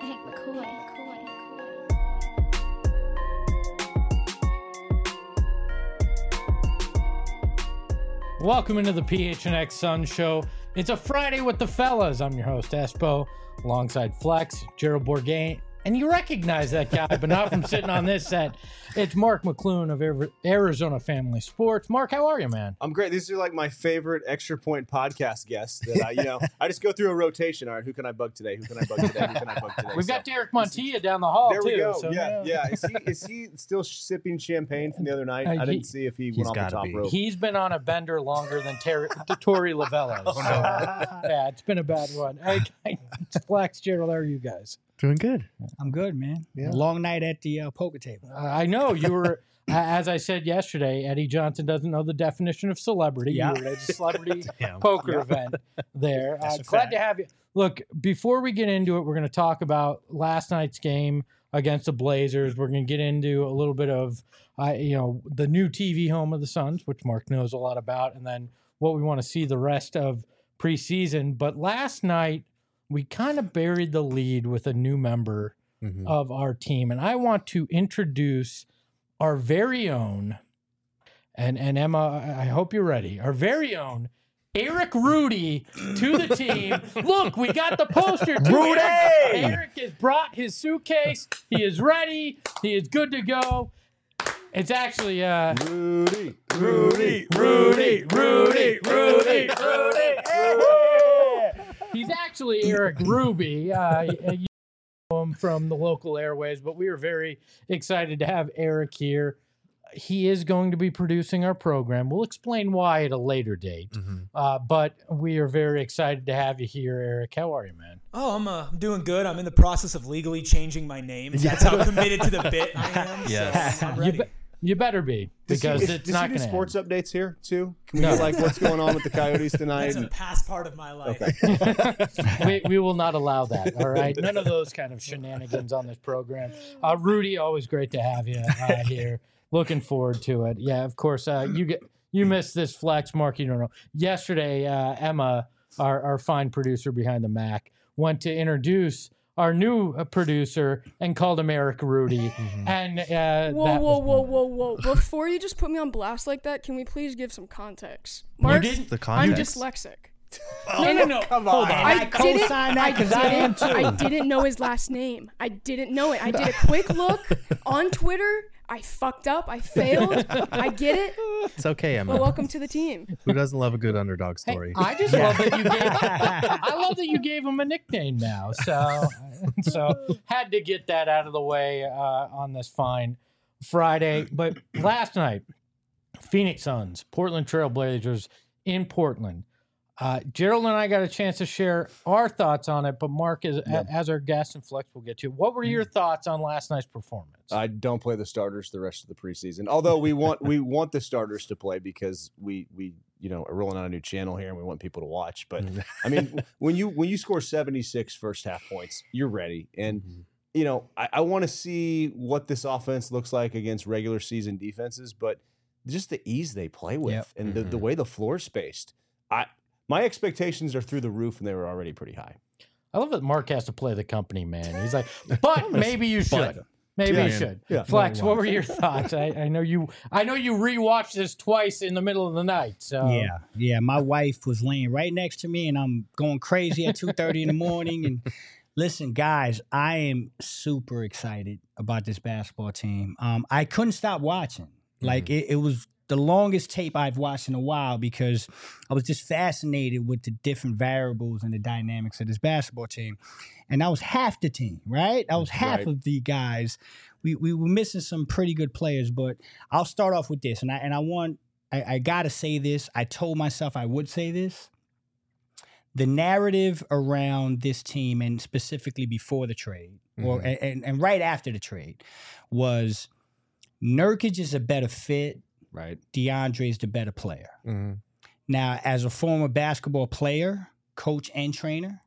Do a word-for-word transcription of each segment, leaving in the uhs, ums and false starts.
Hank McCoy. Welcome into the P H N X Sun Show. It's a Friday with the fellas. I'm your host, Espo, alongside Flex, Gerald Bourgain. And you recognize that guy, but not from sitting on this set. It's Mark McClune of Arizona Family Sports. Mark, how are you, man? I'm great. These are like my favorite Extra Point podcast guests. That I, you know, I just go through a rotation. All right, who can I bug today? Who can I bug today? Who can I bug today? We've so, got Derek Montilla down the hall, there too. we go. So, yeah, yeah, yeah. Is he is he still sipping champagne from the other night? Uh, I he, didn't see if he went off the top be. rope. He's been on a bender longer than Ter- Tori Lavella. So, yeah, it's been a bad one. Hey, it's Flex, Gerald, how are you guys? Doing good. I'm good, man. Yeah. Long night at the uh, poker table. Uh, I know you were, as I said yesterday, Eddie Johnson doesn't know the definition of celebrity. Yeah. You were at a celebrity Yeah. poker Yeah. event there. Uh, That's a glad fact. to have you. Look, before we get into it, we're going to talk about last night's game against the Blazers. We're going to get into a little bit of, uh, you know, the new T V home of the Suns, which Mark knows a lot about, and then what we want to see the rest of preseason. But last night, we kind of buried the lead with a new member Mm-hmm. of our team. And I want to introduce our very own, and, and Emma, I hope you're ready, our very own Eric Rudy to the team. Look, we got the poster. Too. Rudy! Eric, Eric has brought his suitcase. He is ready. He is good to go. It's actually uh, Rudy, Rudy, Rudy, Rudy, Rudy, Rudy. He's actually Eric Ruby. Uh, you know him from the local airways, but we are very excited to have Eric here. He is going to be producing our program. We'll explain why at a later date. Mm-hmm. Uh, but we are very excited to have you here, Eric. How are you, man? Oh, I'm uh, I'm doing good. I'm in the process of legally changing my name. That's how committed to the bit I am. Yes. So I'm You, ready. be- you better be, Does because he, is, it's does not he do going to sports updates here too? Can we No. get like what's going on with the Coyotes tonight? That's a And- past part of my life. we, we will not allow that. All right. None of those kind of shenanigans on this program. Uh, Rudy, always great to have you uh, here. Looking forward to it. Yeah, of course. Uh, you get you missed this Flex, Mark. You don't know. Yesterday, uh, Emma, our, our fine producer behind the Mac, went to introduce our new uh, producer and called him Eric Rudy. And uh, Whoa, that whoa, was- whoa, whoa, whoa. Before you just put me on blast like that, can we please give some context? You Mark, didn't. The I'm context. dyslexic. No, no, no. Come Hold on. on. I didn't, co-sign that I 'cause I am didn't, I didn't know his last name. I didn't know it. I did a quick look on Twitter. I fucked up. I failed. I get it. It's okay, Emma. But welcome to the team. Who doesn't love a good underdog Hey, story? I just love that you gave. I love that you gave him a nickname now. So, so had to get that out of the way uh, on this fine Friday. But last night, Phoenix Suns, Portland Trail Blazers in Portland. Uh, Gerald and I got a chance to share our thoughts on it, but Mark, as, Yeah. as our guest and Flex, we'll get to. What were your thoughts on last night's performance? I don't play the starters the rest of the preseason. Although we want we want the starters to play because we we you know are rolling out a new channel here and we want people to watch. But I mean, when you when you score seventy-six first half points, you're ready. And you know, I, I want to see what this offense looks like against regular season defenses, but just the ease they play with Yep. and the, the way the floor's spaced. I my expectations are through the roof and they were already pretty high. I love that Mark has to play the company, man. He's like, but maybe you should. Maybe Yeah. you should. Yeah. Flex, what were your thoughts? I, I know you. I know you rewatched this twice in the middle of the night. So Yeah, yeah. My wife was laying right next to me, and I'm going crazy at two thirty in the morning. And listen, guys, I am super excited about this basketball team. Um, I couldn't stop watching. Like it, it was the longest tape I've watched in a while because I was just fascinated with the different variables and the dynamics of this basketball team. And that was half the team, right? That was half Right. of the guys. We we were missing some pretty good players, but I'll start off with this. And I and I want I, I gotta say this. I told myself I would say this. The narrative around this team, and specifically before the trade, or Mhm. and, and right after the trade, was Nurkic is a better fit. Right. DeAndre is the better player. Mhm. Now, as a former basketball player, coach, and trainer,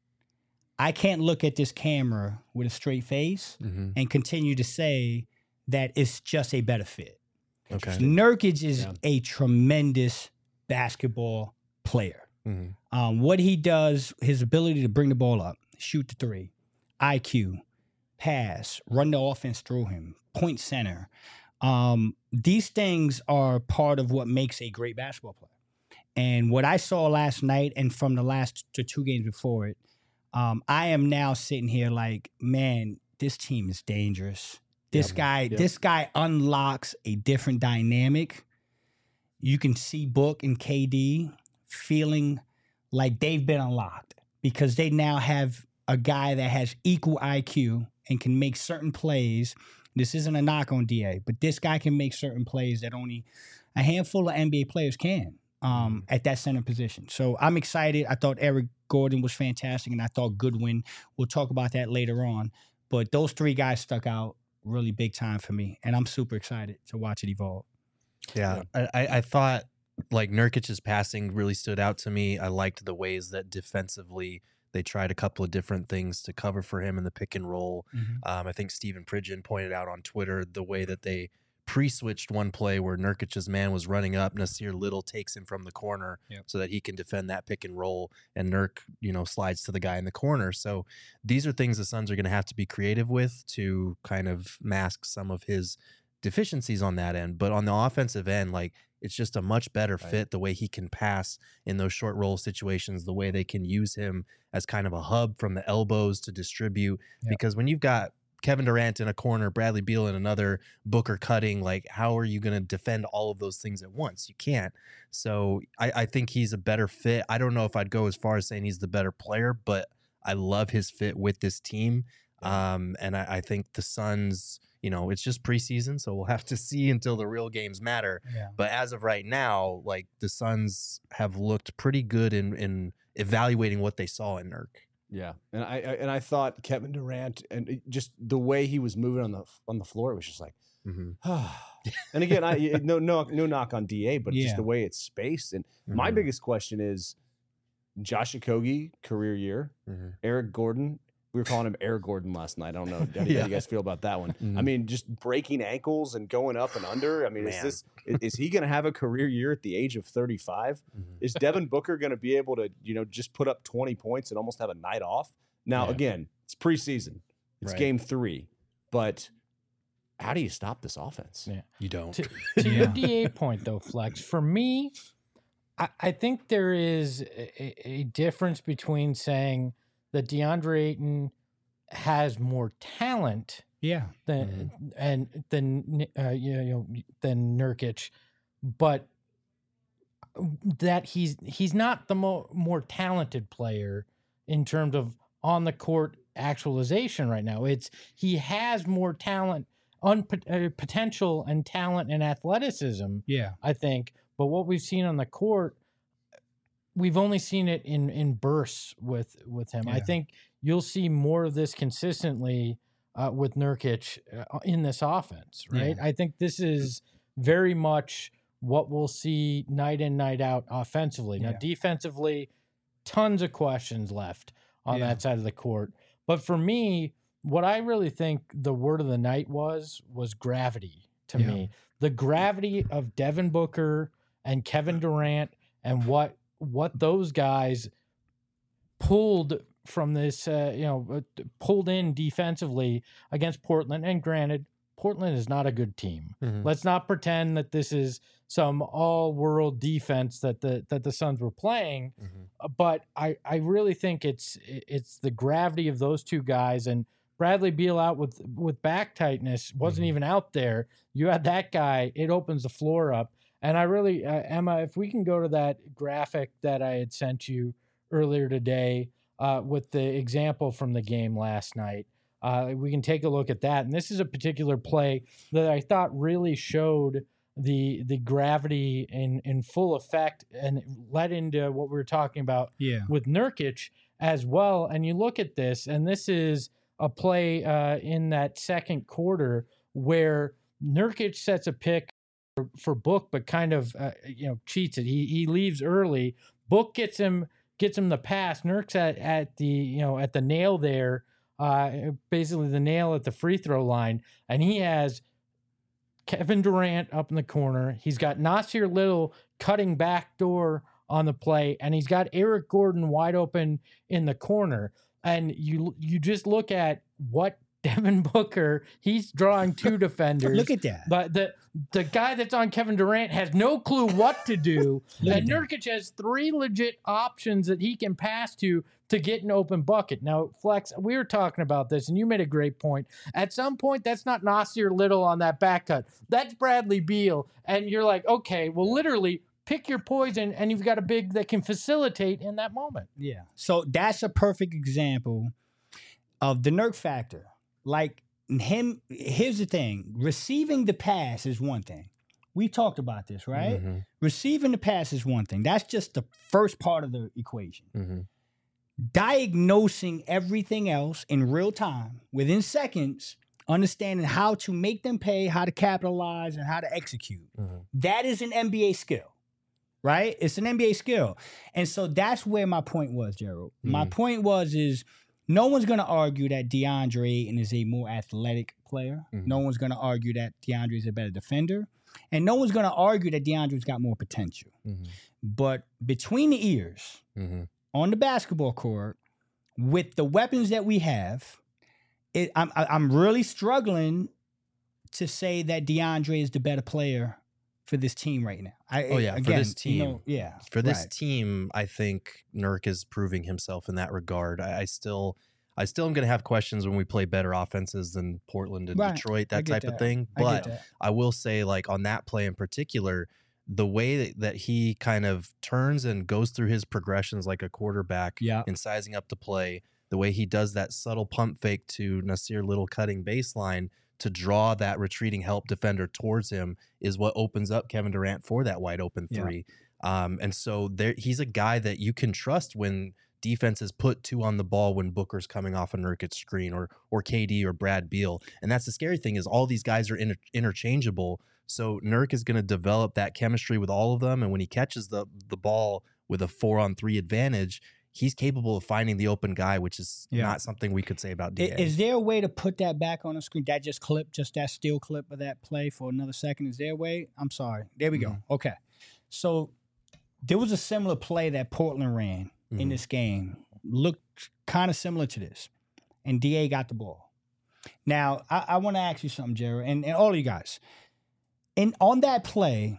I can't look at this camera with a straight face Mhm. and continue to say that it's just a better fit. Okay. Nurkic is Yeah. a tremendous basketball player. Mhm. Um, what he does, his ability to bring the ball up, shoot the three, I Q, pass, run the offense through him, point center. Um, these things are part of what makes a great basketball player. And what I saw last night and from the last the two games before it, um, I am now sitting here like, man, this team is dangerous. This Yep. guy, Yep. this guy unlocks a different dynamic. You can see Book and K D feeling like they've been unlocked because they now have a guy that has equal I Q and can make certain plays. This isn't a knock on D A, but this guy can make certain plays that only a handful of N B A players can um, at that center position. So I'm excited. I thought Eric Gordon was fantastic, and I thought Goodwin. We'll talk about that later on. But those three guys stuck out really big time for me, and I'm super excited to watch it evolve. Yeah, I, I I thought like Nurkic's passing really stood out to me. I liked the ways that defensively they tried a couple of different things to cover for him in the pick and roll. Mhm. Um, I think Stephen Pridgeon pointed out on Twitter the way that they pre-switched one play where Nurkic's man was running up. Nasir Little takes him from the corner Yep. so that he can defend that pick and roll, and Nurk, you know, slides to the guy in the corner. So these are things the Suns are going to have to be creative with to kind of mask some of his deficiencies on that end. But on the offensive end, like, it's just a much better Right. fit the way he can pass in those short roll situations, the way they can use him as kind of a hub from the elbows to distribute. Yep. Because when you've got Kevin Durant in a corner, Bradley Beal in another, Booker cutting, like, how are you going to defend all of those things at once? You can't. So I, I think he's a better fit. I don't know if I'd go as far as saying he's the better player, but I love his fit with this team. Um, and I, I think the Suns, you know, it's just preseason, so we'll have to see until the real games matter. Yeah. But as of right now, like, the Suns have looked pretty good in, in evaluating what they saw in Nurk. Yeah, and I, I and I thought Kevin Durant and it- just the way he was moving on the on the floor, it was just like, Mm-hmm. and again, I no no no knock on D A, but Yeah. just the way it's spaced. And my Mhm. biggest question is, Josh Okogie, career year, Mm-hmm. Eric Gordon. We were calling him Eric Gordon last night. I don't know. How do, how do Yeah. you guys feel about that one? I Mhm. mean, just breaking ankles and going up and under. I mean, is Man. this is, is he going to have a career year at the age of thirty-five? Mhm. Is Devin Booker going to be able to, you know, just put up twenty points and almost have a night off? Now, Yeah. again, it's preseason. It's Right. game three. But how do you stop this offense? Yeah. You don't. To, to Yeah. your D A point, though, Flex, for me, I, I think there is a, a difference between saying that DeAndre Ayton has more talent Yeah. than and than uh, you know than Nurkic, but that he's he's not the mo- more talented player in terms of on the court actualization right now. It's he has more talent, un- uh, potential, and talent and athleticism. Yeah. I think, but what we've seen on the court, we've only seen it in in bursts with with him. I Yeah. think you'll see more of this consistently uh, with Nurkic uh, in this offense, right? I think this is very much what we'll see night in, night out offensively. Now, Yeah. defensively, tons of questions left on Yeah. that side of the court. But for me, what I really think the word of the night was was gravity to Yeah. me. The gravity of Devin Booker and Kevin Durant and what what those guys pulled from this, uh, you know, uh, pulled in defensively against Portland. And granted, Portland is not a good team. Mhm. Let's not pretend that this is some all-world defense that the that the Suns were playing. Mhm. Uh, But I I really think it's it's the gravity of those two guys, and Bradley Beal out with with back tightness wasn't Mhm. even out there. You had that guy; it opens the floor up. And I really, uh, Emma, if we can go to that graphic that I had sent you earlier today uh, with the example from the game last night, uh, we can take a look at that. And this is a particular play that I thought really showed the the gravity in in full effect and led into what we were talking about Yeah. with Nurkic as well. And you look at this, and this is a play uh, in that second quarter where Nurkic sets a pick for, for Book, but kind of uh, you know cheats it. He he leaves early. Book gets him gets him the pass. Nurk's at at the you know at the nail there, uh, basically the nail at the free throw line, and he has Kevin Durant up in the corner. He's got Nasir Little cutting back door on the play, and he's got Eric Gordon wide open in the corner. And you you just look at what Devin Booker, he's drawing two defenders. Look at that. But the the guy that's on Kevin Durant has no clue what to do. And Nurkic has three legit options that he can pass to to get an open bucket. Now, Flex, we were talking about this, and you made a great point. At some point, that's not Nasir Little on that back cut. That's Bradley Beal. And you're like, okay, well, literally, pick your poison, and you've got a big that can facilitate in that moment. Yeah. So that's a perfect example of the Nurk factor. Like him, here's the thing. Receiving the pass is one thing. We talked about this, right? Mm-hmm. Receiving the pass is one thing. That's just the first part of the equation. Mm-hmm. Diagnosing everything else in real time, within seconds, understanding how to make them pay, how to capitalize, and how to execute. Mm-hmm. That is an N B A skill, right? It's an N B A skill. And so that's where my point was, Gerald. Mm-hmm. My point was is no one's going to argue that DeAndre Ayton is a more athletic player. Mm-hmm. No one's going to argue that DeAndre is a better defender. And no one's going to argue that DeAndre's got more potential. Mm-hmm. But between the ears, mm-hmm. on the basketball court, with the weapons that we have, it, I'm, I'm really struggling to say that DeAndre is the better player for this team right now. I, oh, yeah, again, for this team. You know, yeah. For this right. team, I think Nurk is proving himself in that regard. I, I still... I still am going to have questions when we play better offenses than Portland and right. Detroit, that type that. of thing. But I, I will say, like, on that play in particular, the way that, that he kind of turns and goes through his progressions like a quarterback yeah. and sizing up the play, the way he does that subtle pump fake to Nasir Little cutting baseline to draw that retreating help defender towards him is what opens up Kevin Durant for that wide open three. Yeah. Um, and so there, he's a guy that you can trust when defenses put two on the ball when Booker's coming off a Nurkic screen or or K D or Brad Beal. And that's the scary thing is all these guys are inter- interchangeable. So Nurk is going to develop that chemistry with all of them. And when he catches the the ball with a four on three advantage, he's capable of finding the open guy, which is yeah. not something we could say about D A. Is there a way to put that back on the screen? That just clip, just that still clip of that play for another second. Is there a way? I'm sorry. There we mm-hmm. go. Okay. So there was a similar play that Portland ran mm-hmm. in this game. Looked kind of similar to this. And D A got the ball. Now, I, I want to ask you something, Jared, and, and all of you guys. And on that play,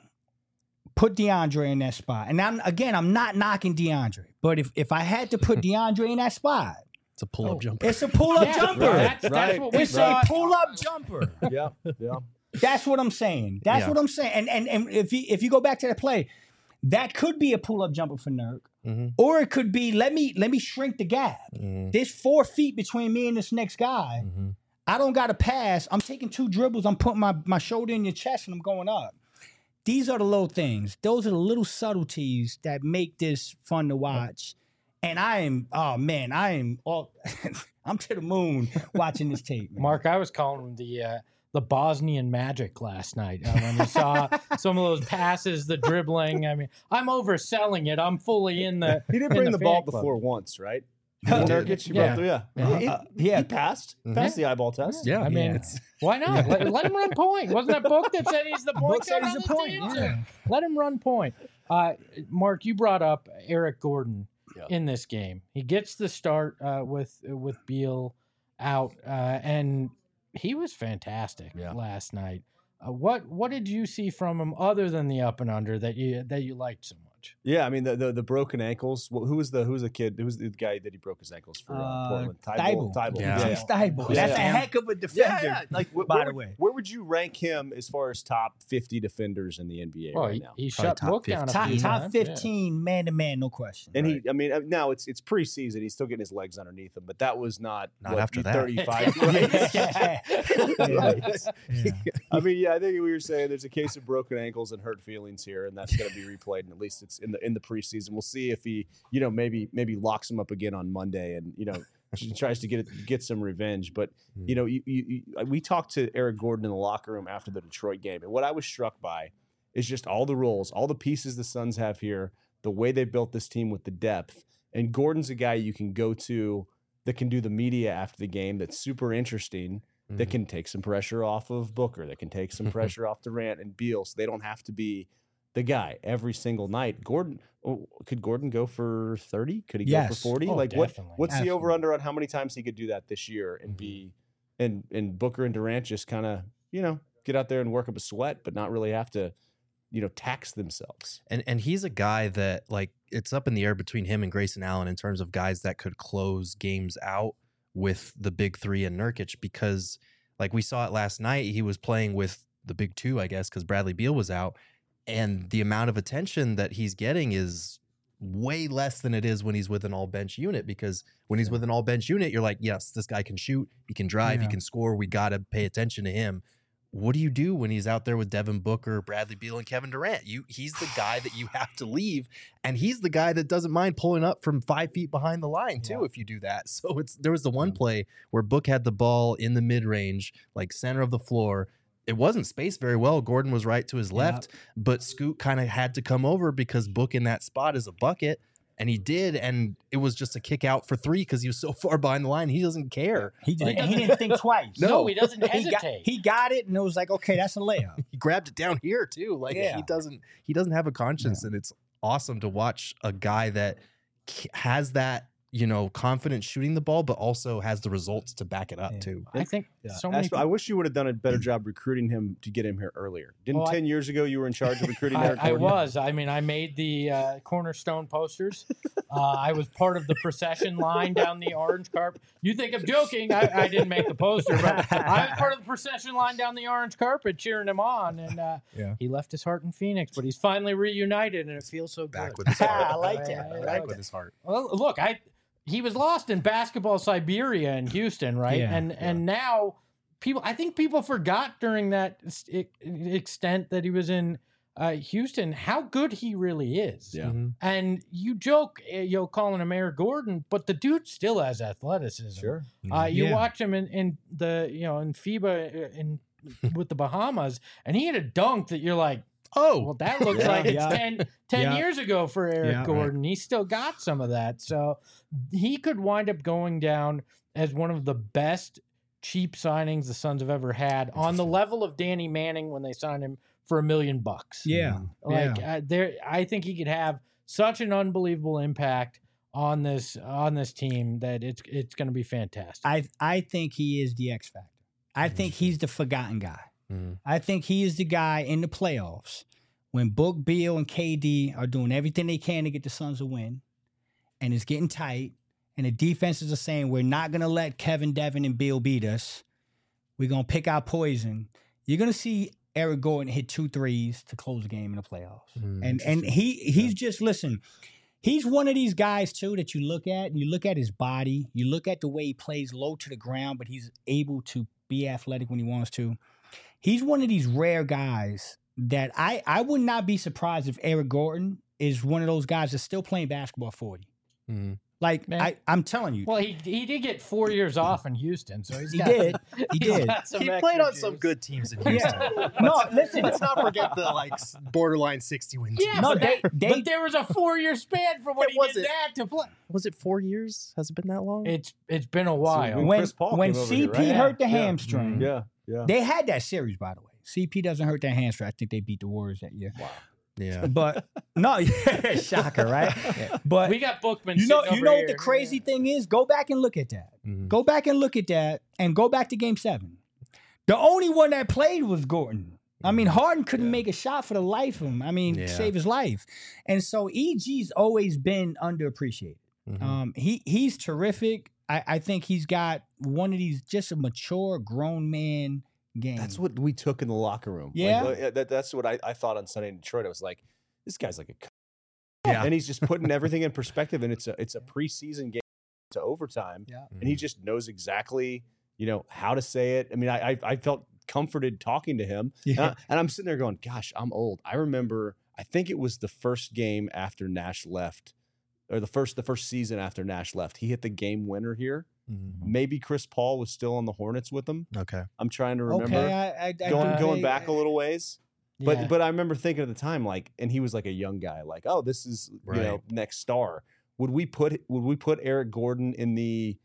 put DeAndre in that spot. And I'm, again, I'm not knocking DeAndre. But if, if I had to put DeAndre in that spot, it's a pull-up oh, jumper. It's a pull-up yeah, jumper. Right, that's, right. that's what we it's saw. a pull-up jumper. Yeah, yeah. That's what I'm saying. That's yeah. what I'm saying. And and and if you if you go back to that play, that could be a pull-up jumper for Nurk. Mm-hmm. Or it could be, let me let me shrink the gap. Mm-hmm. There's four feet between me and this next guy. Mm-hmm. I don't got to pass. I'm taking two dribbles. I'm putting my, my shoulder in your chest and I'm going up. These are the little things. Those are the little subtleties that make this fun to watch. And I am, oh man, I am all, I'm to the moon watching this tape. Man. Mark, I was calling him the uh, the Bosnian Magic last night uh, when you saw some of those passes, the dribbling. I mean, I'm overselling it. I'm fully in the. He did in bring the, the ball club. before once, right? Nurkic, he yeah. brought through, yeah. Yeah. He, Uh, he, yeah. he passed, Mhm. passed the eyeball test. Yeah, I mean, Yeah. it's why not? Let, let him run point. Wasn't that book that said he's the point? Book said guard he's on the this point, team? yeah. Let him run point. Uh, Mark, you brought up Eric Gordon Yeah. in this game. He gets the start uh, with with Beal out, uh, and he was fantastic Yeah. last night. Uh, what what did you see from him other than the up and under that you that you liked so much? Yeah, I mean the the, the broken ankles. Well, who was the who was the kid? Who was the guy that he broke his ankles for uh, Uh, Portland? Thibault. Thibault. Yeah. Yeah. Keith Thibault. Yeah. That's Yeah. a heck of a Yeah, defender. yeah. Like, wh- by where the would- way. where would you rank him as far as top fifty defenders in the N B A Well, right he, now? he Probably shut top Book down a Top few top times, yeah. fifteen, man to man, no question. And Right. he, I mean, uh, now it's it's preseason. He's still getting his legs underneath him, but that was not Not what, after that. thirty-five. Right? Yeah. Right. Yeah. I mean, yeah, I think we were saying there's a case of broken ankles and hurt feelings here, and that's going to be replayed. And at least it's in the in the preseason. We'll see if he, you know, maybe maybe locks him up again on Monday, and you know, tries to get it, get some revenge. But you know, you, you, you, we talked to Eric Gordon in the locker room after the Detroit game, and what I was struck by is just all the roles, all the pieces the Suns have here, the way they built this team with the depth. And Gordon's a guy you can go to that can do the media after the game. That's super interesting. That can take some pressure off of Booker, that can take some pressure off Durant and Beal, so they don't have to be the guy every single night. Gordon, oh, could Gordon go for thirty? Could he Yes. go for forty? Oh, like what? definitely. What's the Absolutely. over under on how many times he could do that this year and be, and and Booker and Durant just kind of you know get out there and work up a sweat, but not really have to, you know, tax themselves. And and he's a guy that like it's up in the air between him and Grayson Allen in terms of guys that could close games out with the big three and Nurkic, because like we saw it last night, he was playing with the big two, I guess, because Bradley Beal was out, and the amount of attention that he's getting is way less than it is when he's with an all bench unit, because when he's with an all bench unit, you're like, yes, this guy can shoot, he can drive, he Yeah. can score. We got to pay attention to him. What do you do when he's out there with Devin Booker, Bradley Beal, and Kevin Durant? You, he's the guy that you have to leave, and he's the guy that doesn't mind pulling up from five feet behind the line too. Yeah. If you do that, so it's there was the one play where Book had the ball in the mid range, like center of the floor. It wasn't spaced very well. Gordon was right to his left, but Scoot kind of had to come over because Book in that spot is a bucket. And he did, and it was just a kick out for three because he was so far behind the line. He doesn't care. He did. Like- he didn't think twice. No, he doesn't He got, hesitate. he got it, and it was like, okay, that's a layup. He grabbed it down here too. Like Yeah. he doesn't. He doesn't have a conscience, and it's awesome to watch a guy that k- has that, you know, confidence shooting the ball, but also has the results to back it up Yeah. too. I think Yeah. so many. Asper, I wish you would have done a better job recruiting him to get him here earlier. Didn't Well, I- ten years ago you were in charge of recruiting Eric I, I Gordon? was. I mean, I made the uh, cornerstone posters. Uh, I was part of the procession line down the orange carpet. You think I'm joking? I, I didn't make the poster, but I was part of the procession line down the orange carpet, cheering him on. And uh, Yeah. he left his heart in Phoenix, but he's finally reunited, and it feels so Back good. with his heart. I like that. Yeah, I yeah, like Back yeah. with his heart. Well, look, I he was lost in basketball Siberia in Houston, right? Yeah, and and now people, I think people forgot during that s- e- extent that he was in uh, Houston how good he really is. Yeah. Mhm. And you joke, uh, you know, calling him Eric Gordon, but the dude still has athleticism. Sure. Uh, you Yeah. watch him in, in the you know in FIBA uh, in with the Bahamas, and he had a dunk that you're like, Oh, well, that looks Yeah. like it's Yeah. ten, ten Yeah. years ago for Eric Yeah, right. Gordon. He's still got some of that. So he could wind up going down as one of the best cheap signings the Suns have ever had, on the level of Danny Manning when they signed him for a million bucks. Yeah. Like yeah. uh, there, I think he could have such an unbelievable impact on this on this team that it's it's going to be fantastic. I I think he is the X factor. I think he's the forgotten guy. Mhm. I think he is the guy in the playoffs when Book, Beal, and K D are doing everything they can to get the Suns a win, and it's getting tight, and the defenses are saying we're not going to let Kevin, Devin, and Beal beat us. We're going to pick our poison. You're going to see Eric Gordon hit two threes to close the game in the playoffs. Mhm. And and he he's just, listen, he's one of these guys too that you look at, and you look at his body, you look at the way he plays low to the ground, but he's able to be athletic when he wants to. He's one of these rare guys that I, I would not be surprised if Eric Gordon is one of those guys that's still playing basketball at forty. Mhm. Like, Man. I, I'm telling you. well, he he did get four years off in Houston, so he's He got, did. He he's did. got some He extra played on some juice. good teams in Houston. Yeah. No, listen. Let's not forget the like s- borderline sixty win Yeah, teams. No, but, they- that- they- but there was a four year span from when It he wasn't. did that to play. Was it four years? Has it been that long? It's it's been a while. when When, Chris Paul when came over C P here, right? hurt the Yeah. hamstring, Yeah. Yeah. they had that series, by the way. C P doesn't hurt that hamstring. I think they beat the Warriors that year. Wow. yeah. But no, yeah, shocker, right? But we got Bookman. you know, sitting you over know what here. the crazy thing is? Go back and look at that. Mhm. Go back and look at that, and go back to Game Seven. The only one that played was Gordon. I mean, Harden couldn't Yeah. make a shot for the life of him. I mean, Yeah. save his life. And so E G's always been underappreciated. Mhm. Um, he he's terrific. I, I think he's got one of these just a mature, grown man game. That's what we took in the locker room. Like, Yeah? uh, that, that's what I, I thought on Sunday in Detroit. I was like, this guy's like a c- Yeah. and he's just putting everything in perspective. And it's a it's a preseason game to overtime, Yeah. and he just knows exactly you know how to say it. I mean, I I, I felt comforted talking to him, and, Yeah. I, and I'm sitting there going, gosh, I'm old. I remember. I think it was the first game after Nash left, or the first the first season after Nash left. He hit the game winner here. Mhm. Maybe Chris Paul was still on the Hornets with him. Okay. I'm trying to remember. Okay, I, I, I going do going think- back a little ways. But Yeah. but I remember thinking at the time, like, and he was like a young guy, like, oh, this is you know Right. next star. Would we put would we put Eric Gordon in the,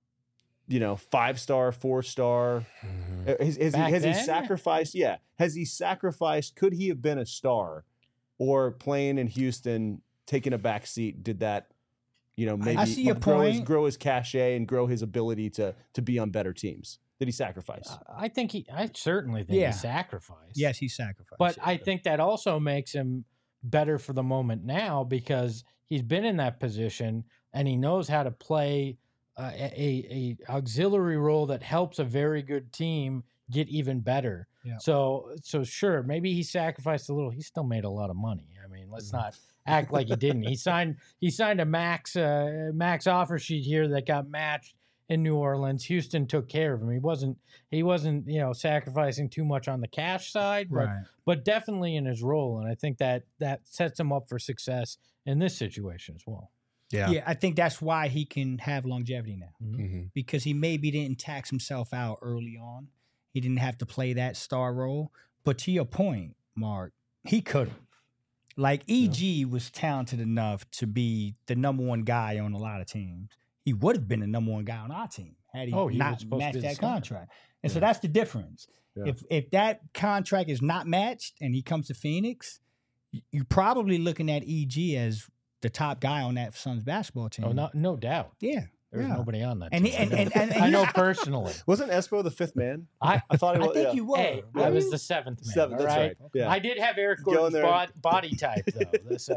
you know, five star, four star? Mhm. Uh, Has, has he Back has he then? sacrificed? Yeah, has he sacrificed? Could he have been a star or playing in Houston, taking a back seat, did that, you know, maybe I see your grow his, point. grow his cachet and grow his ability to to be on better teams? Did he sacrifice? I think he. I certainly think Yeah. he sacrificed. Yes, he sacrificed. But I think that also makes him better for the moment now because he's been in that position and he knows how to play uh, a, a auxiliary role that helps a very good team get even better. Yeah. So so sure, maybe he sacrificed a little. He still made a lot of money. I mean, let's not act like he didn't. He signed he signed a max uh, max offer sheet here that got matched in New Orleans. Houston took care of him. He wasn't he wasn't, you know, sacrificing too much on the cash side, but right. but definitely in his role. And I think that that sets him up for success in this situation as well. Yeah. Yeah, I think that's why he can have longevity now Mhm. because he maybe didn't tax himself out early on. He didn't have to play that star role. But to your point, Mark, he could have. Like E G was talented enough to be the number one guy on a lot of teams. He would have been the number one guy on our team had he Oh, he was not supposed to matched be the that starter. contract. And so Yeah. that's the difference. Yeah. If if that contract is not matched and he comes to Phoenix, y- you're probably looking at E G as the top guy on that Suns basketball team. Oh, no, no doubt. Yeah. There's yeah. nobody on that. And he- team. and- and- and- and I know he- personally. Wasn't Espo the fifth man? I I thought he I was. think yeah. you were. hey, Were I was you? the seventh man. Seventh, all that's right. right. Yeah. I did have Eric Go in Gordon's there. bod- body type though. So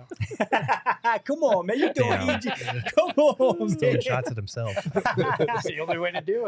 uh, Come on, man. You're doing Damn. E G. Come on, Throwing man. shots at himself. that's the only way to do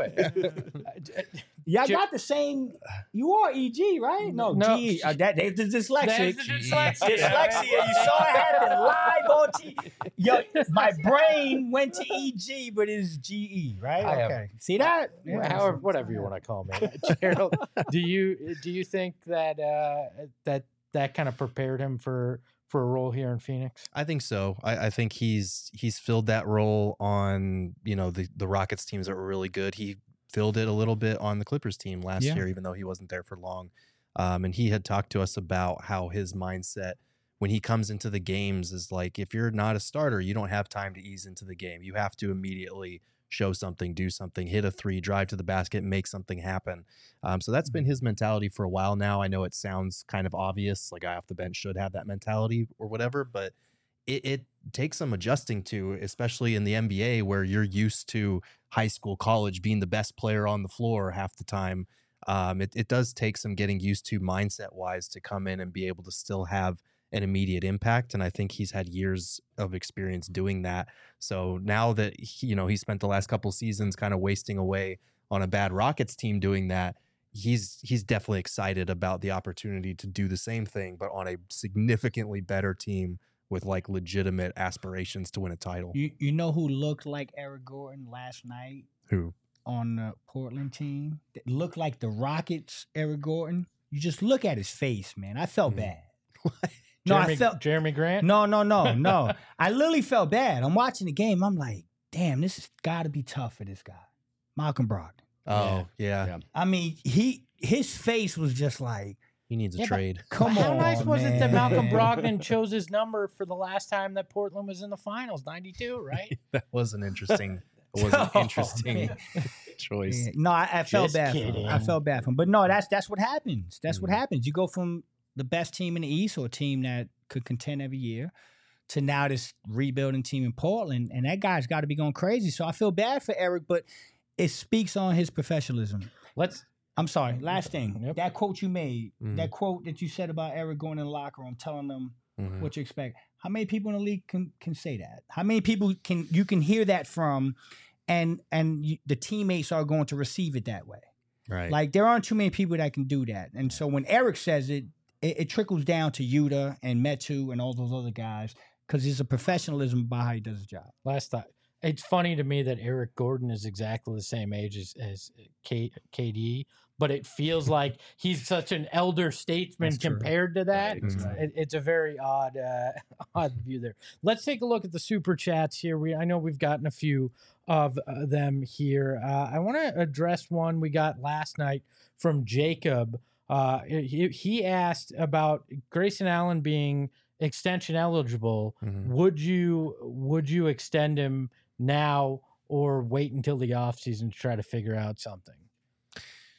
it. Y'all Ju- got the same. You are E G, right? No, No. G E. Uh, that, that's the dyslexic. That's the dyslexia. Dyslexia. You saw it happen live on T V. Yo, my brain went to E G, but it's G E, right? I have- Okay. See that? Well, however, whatever you want to call me, Gerald. Do you do you think that uh, that that kind of prepared him for for a role here in Phoenix? I think so. I, I think he's he's filled that role on, you know, the, the Rockets teams that were really good. He filled it a little bit on the Clippers team last Yeah. year, even though he wasn't there for long. Um, and he had talked to us about how his mindset when he comes into the games is like, if you're not a starter, you don't have time to ease into the game. You have to immediately show something, do something, hit a three, drive to the basket, make something happen. Um, so that's been his mentality for a while now. I know it sounds kind of obvious, like a guy off the bench should have that mentality or whatever, but it, it takes some adjusting to, especially in the N B A where you're used to high school, college being the best player on the floor half the time. Um, it, it does take some getting used to mindset wise to come in and be able to still have an immediate impact. And I think he's had years of experience doing that. So now that, he, you know, he spent the last couple seasons kind of wasting away on a bad Rockets team doing that, he's he's definitely excited about the opportunity to do the same thing, but on a significantly better team with like legitimate aspirations to win a title. You you know who looked like Eric Gordon last night Who? on the Portland team? That looked like the Rockets, Eric Gordon. You just look at his face, man. I felt Mhm. bad. Jeremy, no, I felt Jeremy Grant. no, no, no, no. I literally felt bad. I'm watching the game. I'm like, damn, this has got to be tough for this guy, Malcolm Brogdon. Oh, yeah. Yeah. I mean, he his face was just like, He needs a Yeah, but trade. come How on, nice was it that man. Malcolm Brogdon chose his number for the last time that Portland was in the finals, ninety-two, right? That was an interesting, it was an Oh, interesting man. choice. Yeah, no, I, I felt Just bad for him. kidding. I felt bad for him. But no, that's that's what happens. That's what Mhm. happens. You go from the best team in the East or a team that could contend every year to now this rebuilding team in Portland, and that guy's got to be going crazy. So I feel bad for Eric, but it speaks on his professionalism. Let's I'm sorry. Last thing, Yep. that quote you made, Mhm. that quote that you said about Eric going in the locker room, telling them Mhm. what you expect. How many people in the league can can say that? How many people can you can hear that from, and and you, the teammates are going to receive it that way? Right. Like there aren't too many people that can do that. And so when Eric says it, it, it trickles down to Yuta and Metu and all those other guys because there's a professionalism about how he does his job. last thought. It's funny to me that Eric Gordon is exactly the same age as, as K, KD, but it feels like he's such an elder statesman That's true. compared to that. Right, that's right. It, it's a very odd, uh, odd view there. Let's take a look at the super chats here. We I know we've gotten a few of uh, them here. Uh, I want to address one we got last night from Jacob. Uh, he, he asked about Grayson Allen being extension eligible. Mhm. Would you would you extend him now or wait until the offseason to try to figure out something?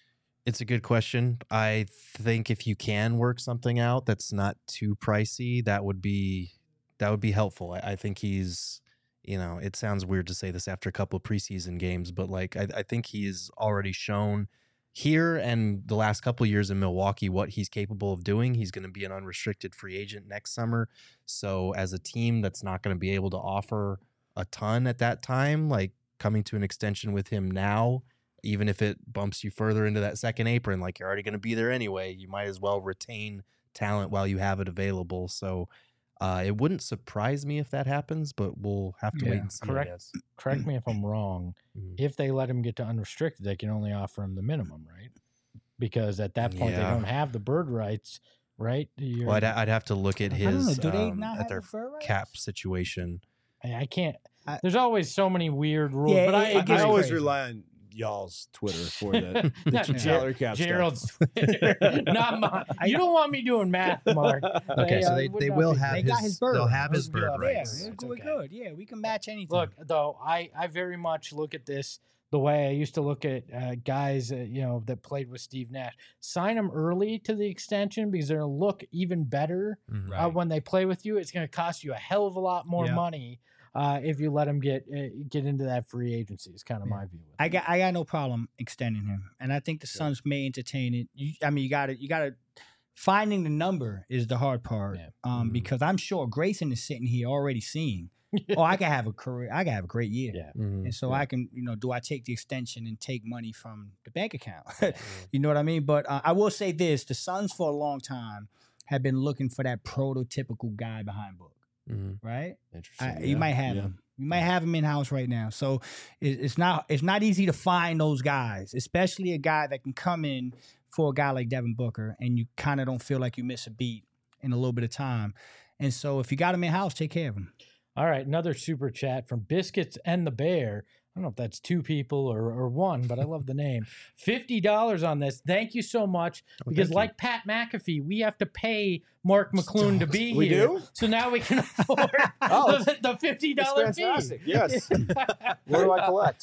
It's a good question. I think if you can work something out that's not too pricey, that would be that would be helpful. I, I think he's, you know, it sounds weird to say this after a couple of preseason games, but like I, I think he's already shown here and the last couple of years in Milwaukee what he's capable of doing. He's going to be an unrestricted free agent next summer. So as a team that's not going to be able to offer a ton at that time, like coming to an extension with him now, even if it bumps you further into that second apron, like you're already going to be there anyway, you might as well retain talent while you have it available. So uh, it wouldn't surprise me if that happens, but we'll have to Yeah. wait and see. Correct. I guess. Correct me if I'm wrong. Mhm. If they let him get to unrestricted, they can only offer him the minimum, right? Because at that point, Yeah. they don't have the bird rights, right? You're- Well, I'd, I'd have to look at I don't know. his Do they um, not at have their the fur rights? cap situation. I, I can't. I- There's always so many weird rules, Yeah, but it- I, it I, gets I always crazy. rely on y'all's Twitter for the, the Not salary cap stuff. Gerald's Twitter, not mine. You don't want me doing math, Mark. Okay, so uh, they, would they not will be- have They his, got his bird they'll rights. have his Those bird are good. rights. Yeah, It's we're okay. good. Yeah, we can match anything. Look, though, I, I very much look at this the way I used to look at uh, guys, uh, you know, that played with Steve Nash. Sign them early to the extension because they're going to look even better Mhm. uh, when they play with you. It's going to cost you a hell of a lot more Yeah. money uh, if you let them get uh, get into that free agency. Is kind of Yeah. my view. with I it. got I got no problem extending him, and I think the Suns may entertain it. You, I mean, you got to you got to finding the number is the hard part, Yeah. um, Mhm. because I'm sure Grayson is sitting here already seeing. Oh, I can have a career. I can have a great year. Yeah. Mhm. And so I can, you know, do I take the extension and take money from the bank account? You know what I mean? But uh, I will say this: the Suns for a long time have been looking for that prototypical guy behind Book, Mhm. right? Interesting. I, yeah, you might have yeah. him. You might have him in house right now. So it, it's not it's not easy to find those guys, especially a guy that can come in for a guy like Devin Booker, and you kind of don't feel like you miss a beat in a little bit of time. And so if you got him in house, take care of him. All right, another super chat from Biscuits and the Bear. I don't know if that's two people or, or one, but I love the name. fifty dollars on this. Thank you so much. Oh, Because thank you. like Pat McAfee, we have to pay Mark McClune to be We here. do? So now we can afford Oh, the, the fifty That's dollars fee. fantastic. Yes. What do I collect?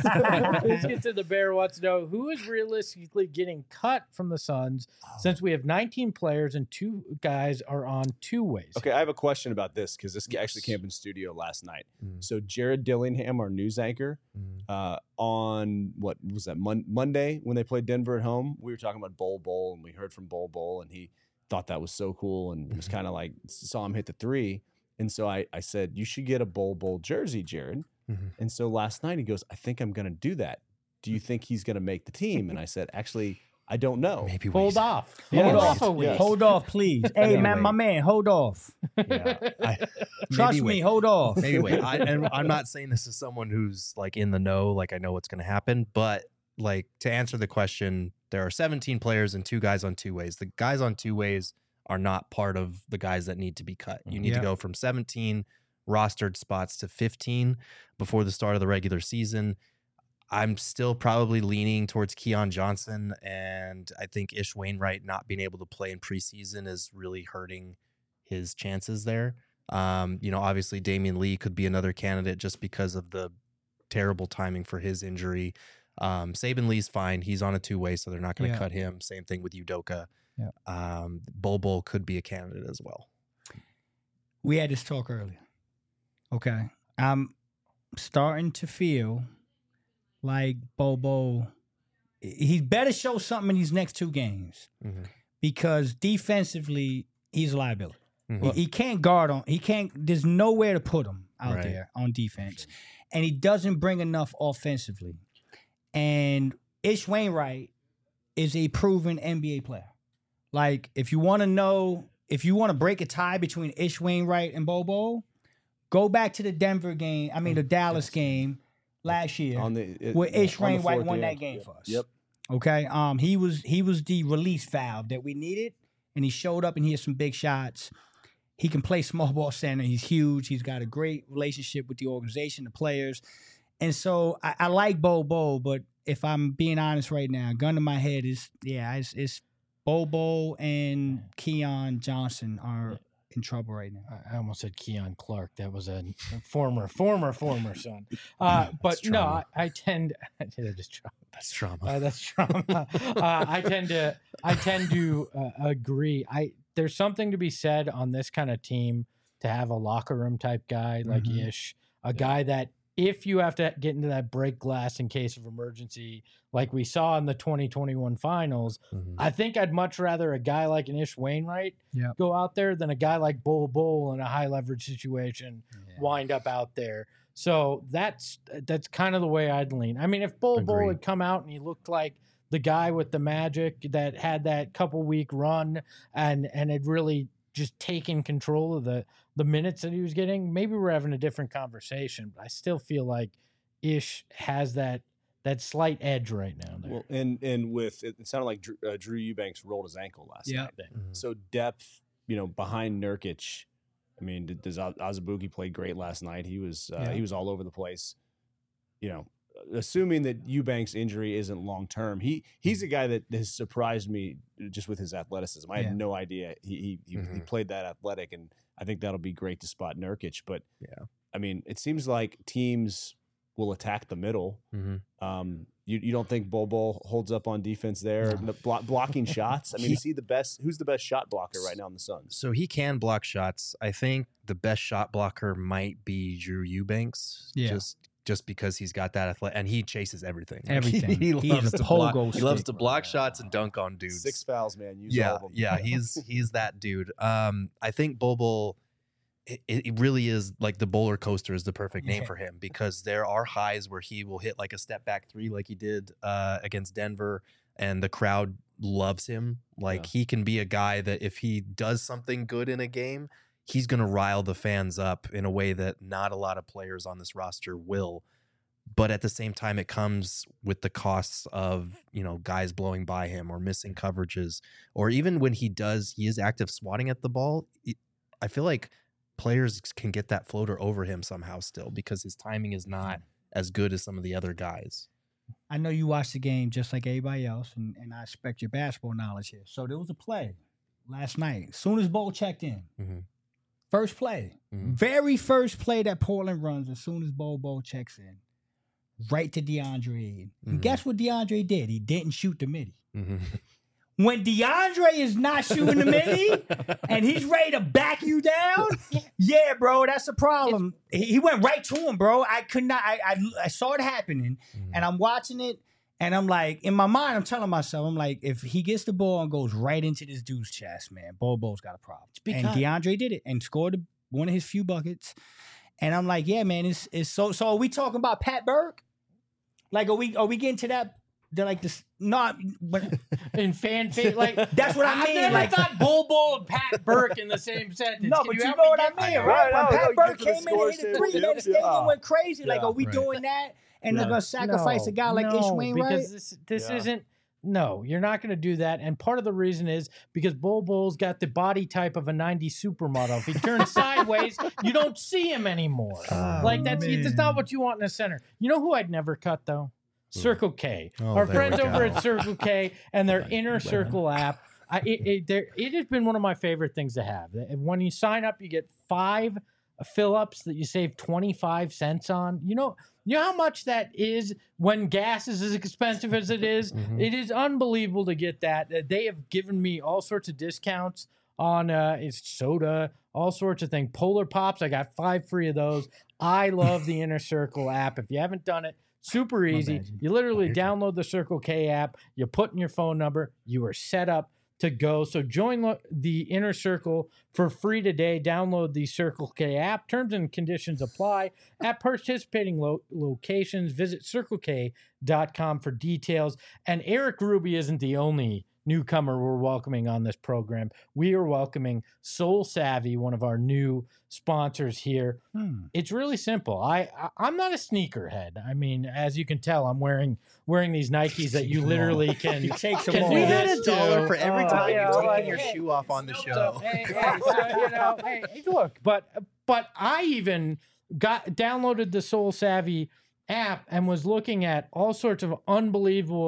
Biscuits and the Bear wants to know who is realistically getting cut from the Suns since we have nineteen players and two guys are on two ways. Okay, I have a question about this because this actually came up in studio last night. Mm. So Jared Dillingham, our news anchor, Mhm. uh, on what was that Mon- Monday when they played Denver at home, we were talking about Bol Bol, and we heard from Bol Bol, and he thought that was so cool, and was kind of like saw him hit the three, and so I I said you should get a Bol Bol jersey, Jared, Mhm. and so last night he goes, I think I'm gonna do that. Do you think he's gonna make the team? And I said, actually, I don't know. Maybe Hold wait. off. Yeah, Hold right. off a Yeah. week. Hold off, please. Hey, Maybe man, my wait. man, hold off. Yeah, I, Trust maybe me, wait. hold off. Maybe wait. I, and I'm not saying this as someone who's like in the know, like I know what's going to happen, but like to answer the question, there are seventeen players and two guys on two ways. The guys on two ways are not part of the guys that need to be cut. You need Yeah. to go from seventeen rostered spots to fifteen before the start of the regular season. I'm still probably leaning towards Keon Johnson, and I think Ish Wainwright not being able to play in preseason is really hurting his chances there. Um, you know, obviously Damian Lee could be another candidate just because of the terrible timing for his injury. Um, Saban Lee's fine. He's on a two-way, so they're not going to Yeah. cut him. Same thing with Udoka. Yeah. Um, Bol Bol could be a candidate as well. We had this talk earlier. Okay. I'm starting to feel like Bobo, he better show something in these next two games Mhm. because defensively, he's a liability. Mhm. He, he can't guard on, he can't, there's nowhere to put him out Right. there on defense. And he doesn't bring enough offensively. And Ish Wainwright is a proven N B A player. Like, if you want to know, if you want to break a tie between Ish Wainwright and Bobo, go back to the Denver game, I mean, the Dallas game last year, On the it, where yeah, Ish on the Wainwright floor at won the that end. game Yep. for us. Yep. Okay. Um, he was he was the release valve that we needed, and he showed up and he had some big shots. He can play small ball center. He's huge. He's got a great relationship with the organization, the players, and so I, I like Bo Bo. But if I'm being honest right now, gun to my head is yeah, it's, it's Bo Bo and Keon Johnson are in trouble right now. I almost said Keon Clark. That was a former, former, former son. Uh, but no, I, I tend. That is trauma. That's trauma. Uh, that's trauma. uh, I tend to. I tend to uh, agree. I there's something to be said on this kind of team to have a locker room type guy like Mhm. Ish, a guy that if you have to get into that break glass in case of emergency, like we saw in the twenty twenty-one finals, Mhm. I think I'd much rather a guy like an Ish Wainwright Yep. go out there than a guy like Bull Bull in a high leverage situation Yeah. wind up out there. So that's that's kind of the way I'd lean. I mean, if Bull Bull Agreed. had come out and he looked like the guy with the magic that had that couple week run and and had really just taken control of the the minutes that he was getting, maybe we're having a different conversation. But I still feel like Ish has that that slight edge right now. There. Well, and and with it, it sounded like Drew, uh, Drew Eubanks rolled his ankle last Yeah. night. Mhm. So depth, you know, behind Nurkic. I mean, did- does Az- Azubuike played great last night? He was uh, Yeah. he was all over the place. You know, assuming that Eubanks' injury isn't long term, he he's a guy that has surprised me just with his athleticism. I Yeah. had no idea he he, he, he Mhm. played that athletic, and I think that'll be great to spot Nurkic. But Yeah. I mean, it seems like teams will attack the middle. Mhm. Um, you, you don't think Bol Bol holds up on defense there, No. No, blo- blocking shots? I mean, He- is he the best? Who's the best shot blocker right now in the Suns? So he can block shots. I think the best shot blocker might be Drew Eubanks. Yeah. Just just because he's got that athletic and he chases everything. Like, Everything. he, He loves is a to block. pogo He loves stick. to block shots and dunk on dudes. Six fouls, man. Use yeah, all of them. yeah, he's he's that dude. Um, I think Bol Bol, it, it really is like the bowler coaster is the perfect name Yeah. for him because there are highs where he will hit like a step back three, like he did uh, against Denver, and the crowd loves him. Like Yeah. he can be a guy that if he does something good in a game, he's gonna rile the fans up in a way that not a lot of players on this roster will. But at the same time, it comes with the costs of, you know, guys blowing by him or missing coverages, or even when he does, he is active swatting at the ball. it- I feel like players can get that floater over him somehow still because his timing is not as good as some of the other guys. I know you watched the game just like everybody else, and, and I expect your basketball knowledge here. So there was a play last night. As soon as Bo checked in, Mhm. first play, Mhm. very first play that Portland runs, as soon as Bo Bo checks in, right to DeAndre Ayton. And Mhm. guess what DeAndre did? He didn't shoot the midi. Mhm. When DeAndre is not shooting the midi and he's ready to back you down, yeah, bro, that's a problem. He he went right to him, bro. I could not. I I, I saw it happening, Mhm. and I'm watching it, and I'm like, in my mind, I'm telling myself, I'm like, if he gets the ball and goes right into this dude's chest, man, Bobo's got a problem. because- And DeAndre did it and scored one of his few buckets. And I'm like, yeah, man, it's it's so. So are we talking about Pat Burke? Like, are we are we getting to that? They're like this. Not, but in fan fa- like That's what I I've mean, never like- thought Bull Bull and Pat Burke in the same sentence. no, Can but you you help know me what I get mean, there? right? Right, When no, Pat no, Burke get to the came in and score hit a table. three, man, Yep, the stadium yeah. went crazy. Like, Yeah. are we Right. doing that? And No, they're gonna sacrifice a guy like no, Ish Wainwright? because this this Yeah. isn't. No, you're not going to do that. And part of the reason is because Bull Bull's got the body type of a nineties supermodel. If he turns sideways, you don't see him anymore. Oh, like that's that's man. not what you want in a center. You know who I'd never cut though? Circle K. Oh, Our there friends we over go. at Circle K and their Right. Inner Circle app. I, it, it, there, it has been one of my favorite things to have. When you sign up, you get five fill ups that you save twenty-five cents on. You know, you know how much that is when gas is as expensive as it is? Mhm. It is unbelievable to get that. Uh, They have given me all sorts of discounts on uh, it's soda, all sorts of things. Polar Pops, I got five free of those. I love the Inner Circle app. If you haven't done it, super easy. bad, G. You literally download the Circle K app, you put in your phone number, you are set up to go. So join lo- the Inner Circle for free today. Download the Circle K app. Terms and conditions apply at participating lo- locations. Visit circle k dot com for details. And Eric Ruby isn't the only newcomer we're welcoming on this program. We are welcoming Soul Savvy, one of our new sponsors here. Hmm. It's really simple. I, I I'm not a sneakerhead. I mean, as you can tell, I'm wearing wearing these Nikes that you literally can. He takes them can all. do We had this a dollar to. for every Uh, time yeah, you've taken like, your hey, shoe off on the so, show. hey, hey, so, you know, hey, hey, look, but but I even got downloaded the Soul Savvy app and was looking at all sorts of unbelievable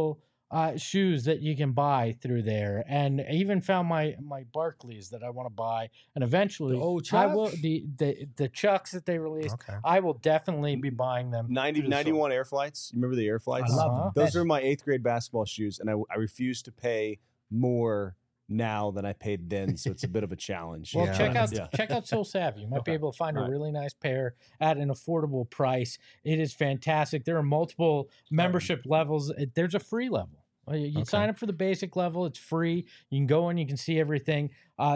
uh, shoes that you can buy through there, and I even found my my Barclays that I want to buy, and eventually The old I will Chucks? the the the Chucks that they released. Okay. I will definitely be buying them. ninety, through the store. ninety-one Air Flights. You remember the Air Flights? I love Uh-huh. them. Those Best. are my eighth grade basketball shoes, and I, I refuse to pay more now than I paid then, so it's a bit of a challenge. Well, Yeah. check out Yeah. check out Soul Savvy. You might be Okay. able to find All a right. really nice pair at an affordable price. It is fantastic. There are multiple membership levels. It- There's a free level. Uh, You, you Okay. sign up for the basic level. It's free. You can go in. You can see everything. Uh,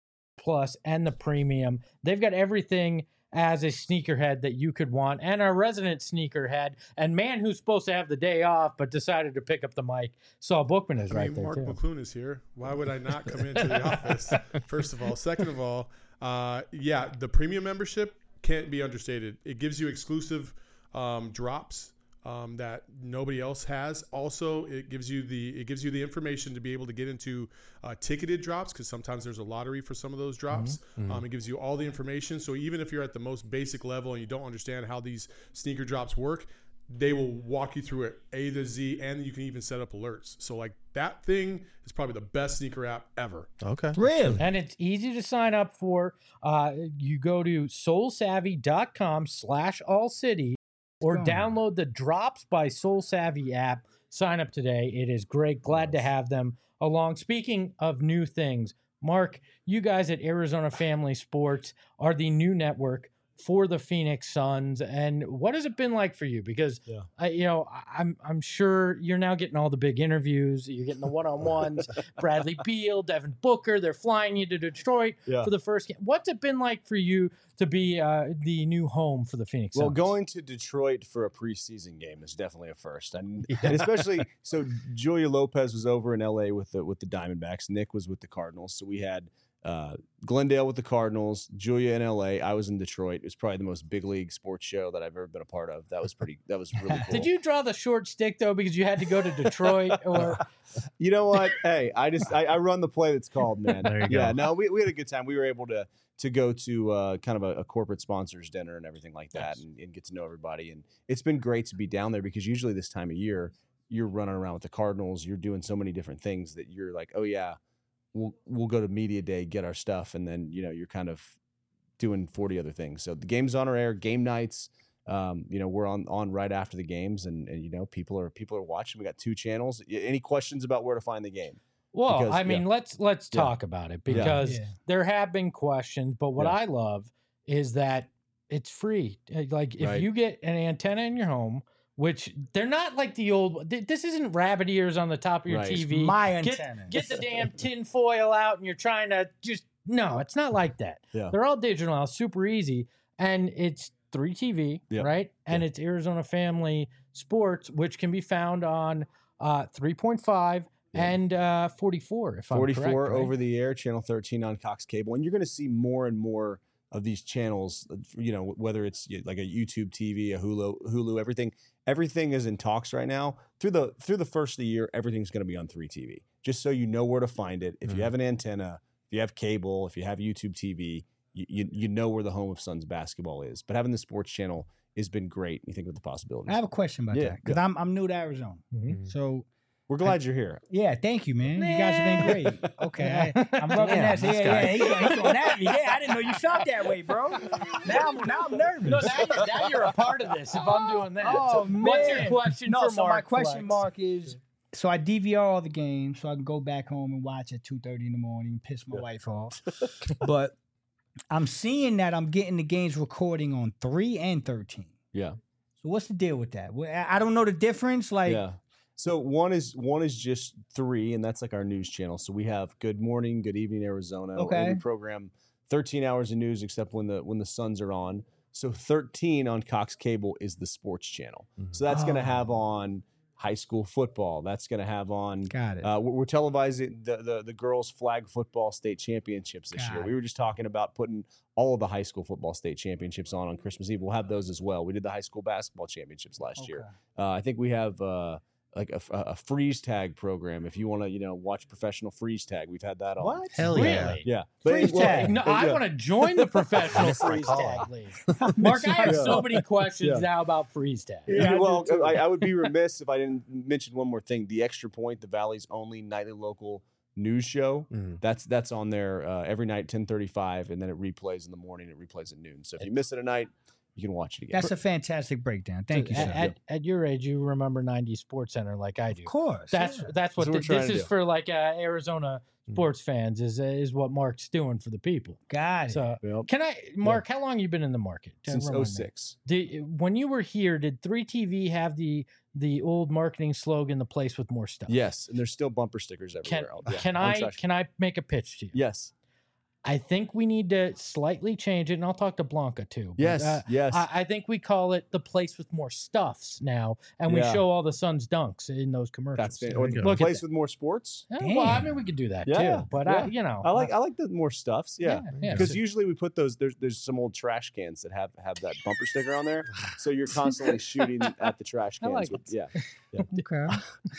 Plus and the premium. They've got everything as a sneakerhead that you could want, and our resident sneakerhead and man who's supposed to have the day off but decided to pick up the mic. Saul Bookman is I right mean, there Mark too. McClune is here. Why would I not come into the office? First of all, second of all, uh, yeah, the premium membership can't be understated. It gives you exclusive um, drops um, that nobody else has. Also, it gives you the it gives you the information to be able to get into uh, ticketed drops, because sometimes there's a lottery for some of those drops. Mhm. Um, it gives you all the information. So even if you're at the most basic level and you don't understand how these sneaker drops work, they will walk you through it A to Z, and you can even set up alerts. So like that thing is probably the best sneaker app ever. Okay. Really? And it's easy to sign up for. Uh, you go to soulsavvy.com slash all city or Go on. download the Drops by Soul Savvy app. Sign up today. It is great. Glad to have them along. Speaking of new things, Mark, you guys at Arizona Family Sports are the new network for the Phoenix Suns. And what has it been like for you? Because, Yeah. I, you know, I- I'm I'm sure you're now getting all the big interviews. You're getting the one-on-ones. Bradley Beal, Devin Booker. They're flying you to Detroit Yeah. for the first game. What's it been like for you to be uh, the new home for the Phoenix Well, Suns? going to Detroit for a preseason game is definitely a first, and, and especially so. Julia Lopez was over in L A with the with the Diamondbacks. Nick was with the Cardinals, so we had uh, Glendale with the Cardinals, Julia in L A. I was in Detroit. It was probably the most big league sports show that I've ever been a part of. That was pretty. That was really cool. Did you draw the short stick though because you had to go to Detroit or You know what? Hey, I just I, I run the play that's called, man. There you Yeah, go. no, we, we had a good time. We were able to to go to uh, kind of a, a corporate sponsors dinner and everything like that, Nice. and, and get to know everybody. And it's been great to be down there because usually this time of year you're running around with the Cardinals. You're doing so many different things that you're like, oh yeah, we'll we'll go to media day, get our stuff, and then you know you're kind of doing forty other things. So the game's on our air, game nights. Um, you know, we're on on right after the games, and, and you know, people are people are watching. We got two channels. Y- Any questions about where to find the game? well, Because- I mean, yeah. let's let's Yeah. talk about it because Yeah. there have been questions, but what Yeah. I love is that it's free. Uh, Like if Right. you get an antenna in your home, which they're not like the old. th- This isn't rabbit ears on the top of your Right. T V. My Get, antenna. get the damn tin foil out, and you're trying to just no. It's not like that. Yeah. They're all digital now, super easy, and it's three T V, Yep. right? And it's Arizona Family Sports, which can be found on uh, three point five Yeah. and uh, forty-four. If I'm forty-four correct, right? over the air, channel thirteen on Cox Cable, and you're going to see more and more of these channels. You know, whether it's y- like a YouTube T V, a Hulu, Hulu, everything, everything is in talks right now. Through the through the first of the year, everything's going to be on three T V. Just so you know where to find it. If Mhm. you have an antenna, if you have cable, if you have YouTube T V, you, you you know where the home of Suns basketball is. But having the sports channel has been great. You think of the possibilities. I have a question about Yeah, that because I'm I'm new to Arizona. Mhm. So We're glad you're here. yeah, thank you, man. You guys have been great. Okay, I, I'm rubbing Damn, that. this Yeah, guy. yeah, he's, he's going at me. Yeah, I didn't know you felt that way, bro. Now I'm now I'm nervous. No, now, you're, now you're a part of this. If I'm doing that, Oh, So what's your man. question No, for so Mark? my question, Flex? Mark, is so I D V R all the games so I can go back home and watch at two thirty in the morning and piss my wife off. But I'm seeing that I'm getting the games recording on three and thirteen. Yeah. So what's the deal with that? Well, I I don't know the difference. Like, yeah. So one is one is just three, and that's like our news channel. So we have Good Morning, Good Evening Arizona. and Okay. we program thirteen hours of news, except when the when the Suns are on. So thirteen on Cox Cable is the sports channel. Mhm. So that's going to have Oh. on high school football. That's going to have on. got it. Uh, we're, we're televising the, the the girls flag football state championships this year. Got We were just talking about putting all of the high school football state championships on on Christmas Eve. We'll have those as well. We did the high school basketball championships last year. Okay. Uh, I think we have uh, like a, a freeze tag program. If you want to, you know, watch professional freeze tag, we've had that on. What? Hell Really? yeah. Yeah. Freeze well, tag. No, but I yeah. want to join the professional Missed my freeze call. tag league. Mark, I have Yeah. so many questions Yeah. now about freeze tag. Yeah, I do well, too. I, I would be remiss if I didn't mention one more thing. The Extra Point, the Valley's only nightly local news show. Mhm. That's that's on there uh, every night, ten thirty-five, and then it replays in the morning. It replays at noon. So if you miss it at night, you can watch it again. That's a fantastic breakdown. Thank you, At, sir. at, at your age, you remember nineties Sports Center like I do. Of course. That's yeah. that's what That's what we're thi- trying this to is do. for, like uh, Arizona Mm. sports fans is uh, is what Mark's doing for the people. Got it. So Well, can I, Mark? How long you been in the market? Uh, since remind me. oh six. Did, when you were here, did three T V have the the old marketing slogan, "The place with more stuff"? Yes, and there's still bumper stickers Can everywhere. Yeah, can on I trash- can I make a pitch to you? Yes. I think we need to slightly change it, and I'll talk to Blanca too. but, Yes. uh, yes. I, I think we call it the place with more stuffs now, and we Yeah. show all the Suns dunks in those commercials. That's fan- There or you the go. Look at place that. with more sports. Yeah, well, I Damn. mean, we could do that Yeah, too, but yeah. I, you know, I like I like the more stuffs. Yeah. yeah. Because So- usually we put those. There's there's some old trash cans that have have that bumper sticker on there, so you're constantly shooting at the trash I cans. like with, it. Yeah. Okay.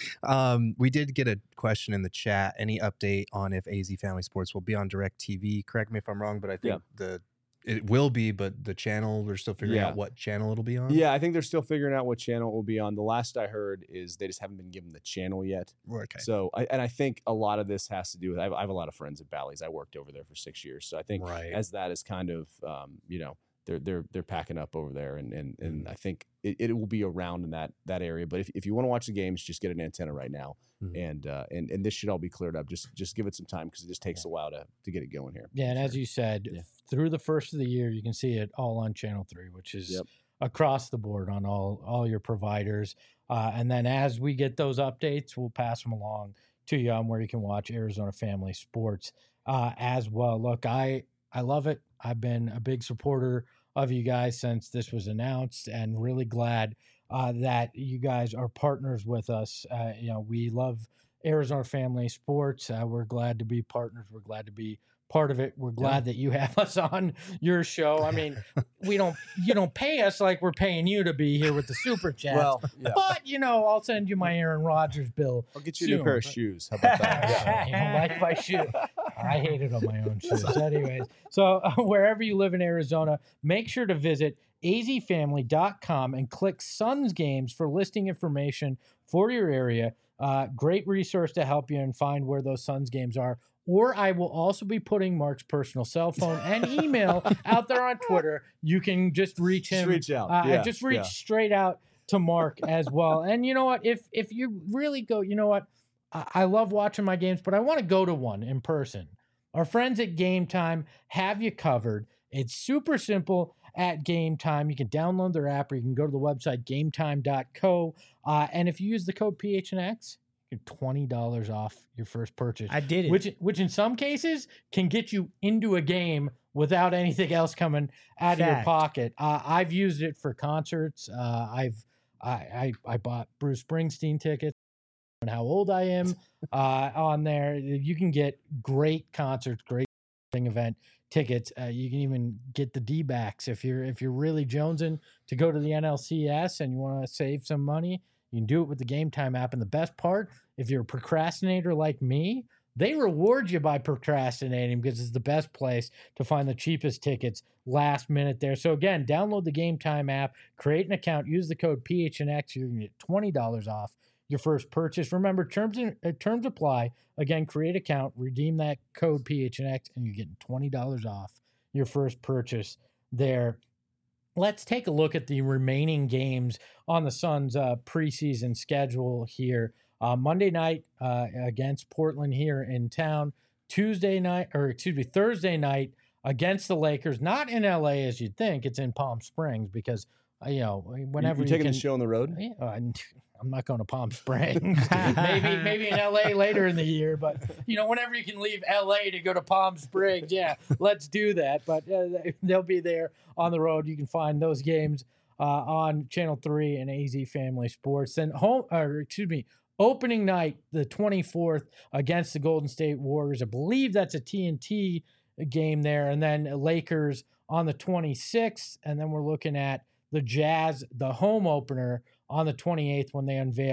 Um, we did get a question in the chat. Any update on if A Z Family Sports will be on DirecTV? Correct me if I'm wrong, but I think Yeah. the it will be, but the channel, they're still figuring Yeah. out what channel it'll be on. Yeah, I think they're still figuring out what channel it will be on. The last I heard is they just haven't been given the channel yet. Okay. So, I, and I think a lot of this has to do with I have, I have a lot of friends at Bally's. I worked over there for six years, so I think Right. as that is kind of um, you know they're they're they're packing up over there, and and and Mm. I think it, it will be around in that that area. But if, if you want to watch the games, just get an antenna right now, Mhm. and uh, and and this should all be cleared up. Just just give it some time because it just takes a while to to get it going here. Yeah, and as you said, Yeah. through the first of the year, you can see it all on Channel Three, which is Yep. across the board on all all your providers. Uh, and then as we get those updates, we'll pass them along to you on where you can watch Arizona Family Sports uh, as well. Look, I I love it. I've been a big supporter of you guys since this was announced, and really glad uh, that you guys are partners with us. Uh, you know, we love Arizona Family Sports. Uh, we're glad to be partners. We're glad to be part of it. We're glad that you have us on your show. I mean, we don't you don't pay us like we're paying you to be here with the super chat. Well, yeah. But you know, I'll send you my Aaron Rodgers bill. I'll get you a new soon, pair of but- shoes. How about that? You don't like my shoe. I hate it on my own shoes. Anyways, so uh, wherever you live in Arizona, make sure to visit a z family dot com and click Suns Games for listing information for your area. Uh, great resource to help you and find where those Suns games are. Or I will also be putting Mark's personal cell phone and email out there on Twitter. You can just reach Just him. reach out. Uh, Yeah, just reach yeah. straight out to Mark as well. And you know what? If if you really go, you know what? I, I love watching my games, but I want to go to one in person. Our friends at Game Time have you covered. It's super simple at Game Time. You can download their app, or you can go to the website game time dot co. Uh, and if you use the code P H N X, you get twenty dollars off your first purchase. I did it. Which, which in some cases can get you into a game without anything else coming out of your Fact. pocket. Uh, I've used it for concerts. Uh, I've I, I I bought Bruce Springsteen tickets. And how old I am uh, on there, you can get great concerts, great event tickets. Uh, you can even get the D-backs if you're if you're really jonesing to go to the N L C S and you want to save some money. You can do it with the Game Time app. And the best part, if you're a procrastinator like me, they reward you by procrastinating because it's the best place to find the cheapest tickets last minute there. So again, download the Game Time app, create an account, use the code P H N X. You're going to get twenty dollars off your first purchase. Remember, terms and, uh, terms apply. Again, create account, redeem that code P H N X, and you're getting twenty dollars off your first purchase there. Let's take a look at the remaining games on the Suns' uh, preseason schedule here. Uh, Monday night uh, against Portland here in town. Tuesday night, or excuse me, Thursday night against the Lakers. Not in L A as you'd think. It's in Palm Springs because, uh, you know, whenever you, you you taking can, the show on the road? yeah, uh, I'm not going to Palm Springs. maybe maybe in L A later in the year, but you know, whenever you can leave L A to go to Palm Springs, yeah, let's do that. But uh, they'll be there on the road. You can find those games uh, on Channel Three and A Z Family Sports. Then home, or excuse me, opening night, the twenty-fourth against the Golden State Warriors. I believe that's a T N T game there, and then Lakers on the twenty-sixth, and then we're looking at the Jazz, the home opener, on the twenty-eighth when they unveil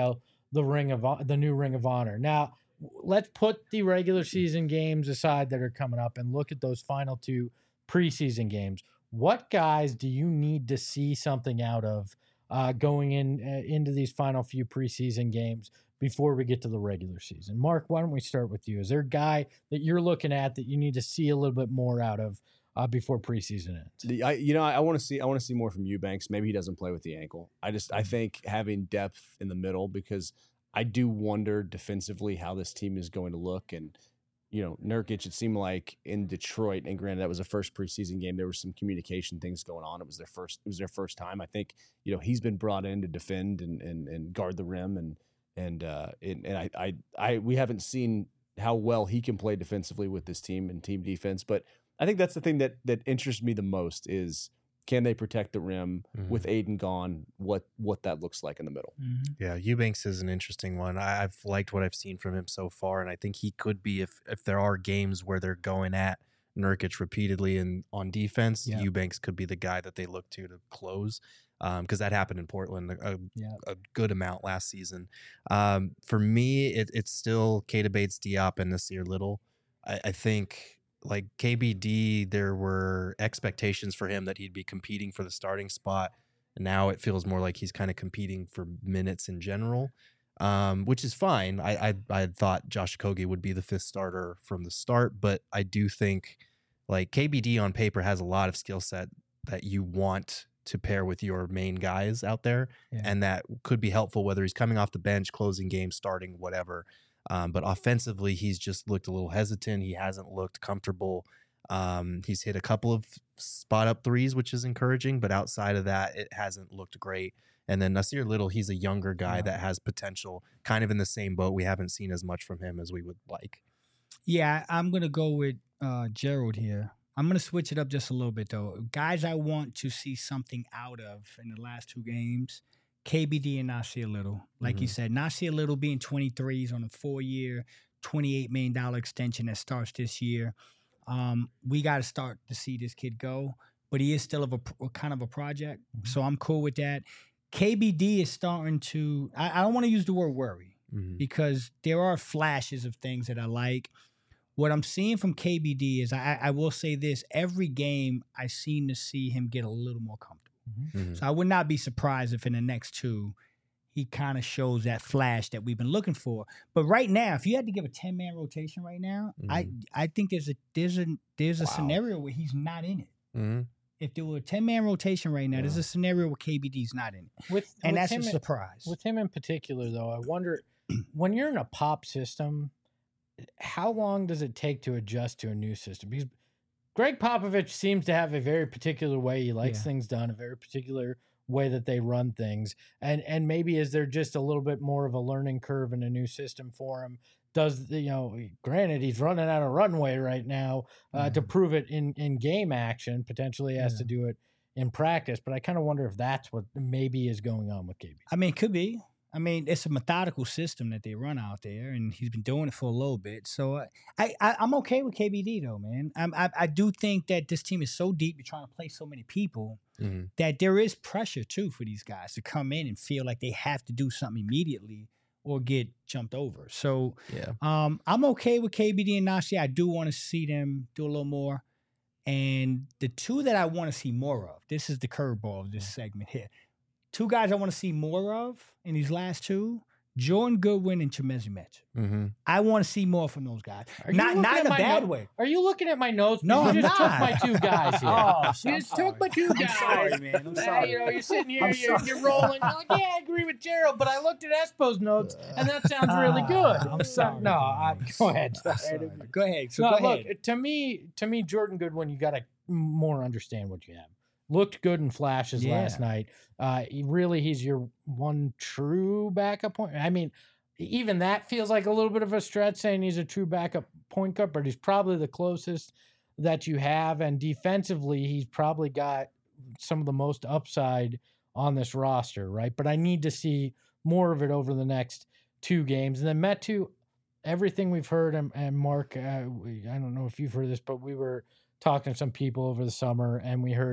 the ring of Hon- the new Ring of Honor. Now, w- let's put the regular season games aside that are coming up and look at those final two preseason games. What guys do you need to see something out of uh, going in uh, into these final few preseason games before we get to the regular season? Mark, why don't we start with you? Is there a guy that you're looking at that you need to see a little bit more out of uh, before preseason ends? The, I, you know, I, I want to see. I want to see more from Eubanks. Maybe he doesn't play with the ankle. I just, I think having depth in the middle, because I do wonder defensively how this team is going to look. And you know, Nurkic, it seemed like in Detroit, and granted that was the first preseason game, there was some communication things going on. It was their first. It was their first time. I think you know he's been brought in to defend and and, and guard the rim, and and uh, and, and I, I I we haven't seen how well he can play defensively with this team and team defense, but I think that's the thing that that interests me the most is can they protect the rim Mhm. with Aiden gone? What what that looks like in the middle. Mm-hmm. Yeah, Eubanks is an interesting one. I, I've liked what I've seen from him so far, and I think he could be if if there are games where they're going at Nurkic repeatedly and on defense, Yeah. Eubanks could be the guy that they look to to close, because that happened in Portland a, Yeah. a good amount last season. Um, for me, it, it's still Keita Bates-Diop and Nasir Little. I, I think like K B D, there were expectations for him that he'd be competing for the starting spot. And now it feels more like he's kind of competing for minutes in general, um, which is fine. I, I I had thought Josh Okogie would be the fifth starter from the start, but I do think like K B D on paper has a lot of skill set that you want to pair with your main guys out there, Yeah. and that could be helpful whether he's coming off the bench, closing games, starting, whatever. Um, but offensively, he's just looked a little hesitant. He hasn't looked comfortable. Um, he's hit a couple of spot up threes, which is encouraging, but outside of that, it hasn't looked great. And then Nasir Little, he's a younger guy Yeah. that has potential, kind of in the same boat. We haven't seen as much from him as we would like. Yeah, I'm gonna go with uh, Gerald here. I'm gonna switch it up just a little bit though. Guys, I want to see something out of in the last two games. K B D and Nasir Little, like you Mhm. said, Nasir Little being twenty-three, he's on a four-year, twenty-eight million dollar extension that starts this year. Um, we got to start to see this kid go, but he is still of a, a kind of a project, so I'm cool with that. K B D is starting to. I, I don't want to use the word worry Mhm. because there are flashes of things that I like. What I'm seeing from K B D is I, I will say this: every game I seem to see him get a little more comfortable. Mhm. So I would not be surprised if in the next two he kind of shows that flash that we've been looking for. But right now, if you had to give a ten man rotation right now, I I think there's a there's a there's a Wow. scenario where he's not in it. Mhm. If there were a ten man rotation right now, there's Yeah. a scenario where K B D's not in it, With and with that's a him, surprise. with him in particular, though, I wonder when you're in a pop system, how long does it take to adjust to a new system? Because Greg Popovich seems to have a very particular way he likes Yeah. things done, a very particular way that they run things. And and maybe is there just a little bit more of a learning curve in a new system for him? Does the- you know, granted he's running out of runway right now uh, to prove it in in game action, potentially has Yeah. to do it in practice, but I kind of wonder if that's what maybe is going on with K B. I mean, it could be. I mean, it's a methodical system that they run out there, and he's been doing it for a little bit. So uh, I, I I'm okay with K B D though, man. I'm, I I do think that this team is so deep, you're trying to play so many people Mhm. that there is pressure too for these guys to come in and feel like they have to do something immediately or get jumped over. So Yeah. um, I'm okay with K B D and Nasir. I do want to see them do a little more. And the two that I want to see more of, this is the curveball of this segment here. Two guys I want to see more of in these last two, Jordan Goodwin and Chimezie Metu. Mhm. I want to see more from those guys. Are you Not looking not at in a my bad note- way. Are you looking at my notes? No, you I'm just not. took my two guys here. Oh, You I'm just sorry. took my two I'm guys. sorry, man. I'm Uh, sorry. You know, you're sitting here, I'm you're, sorry. you're rolling. You're like, yeah, I agree with Gerald, but I looked at Espo's notes, and that sounds really good. Ah, I'm sorry. No, I, go ahead. I'm sorry. Go ahead. So no, go look, ahead. to me, to me, Jordan Goodwin, you got to more understand what you have. Looked good in flashes Yeah. last night. Uh, he really, he's your one true backup point. I mean, even that feels like a little bit of a stretch saying he's a true backup point guard, but he's probably the closest that you have. And defensively, he's probably got some of the most upside on this roster, right? But I need to see more of it over the next two games. And then Metu, everything we've heard, and, and Mark, uh, we, I don't know if you've heard this, but we were talking to some people over the summer, and we heard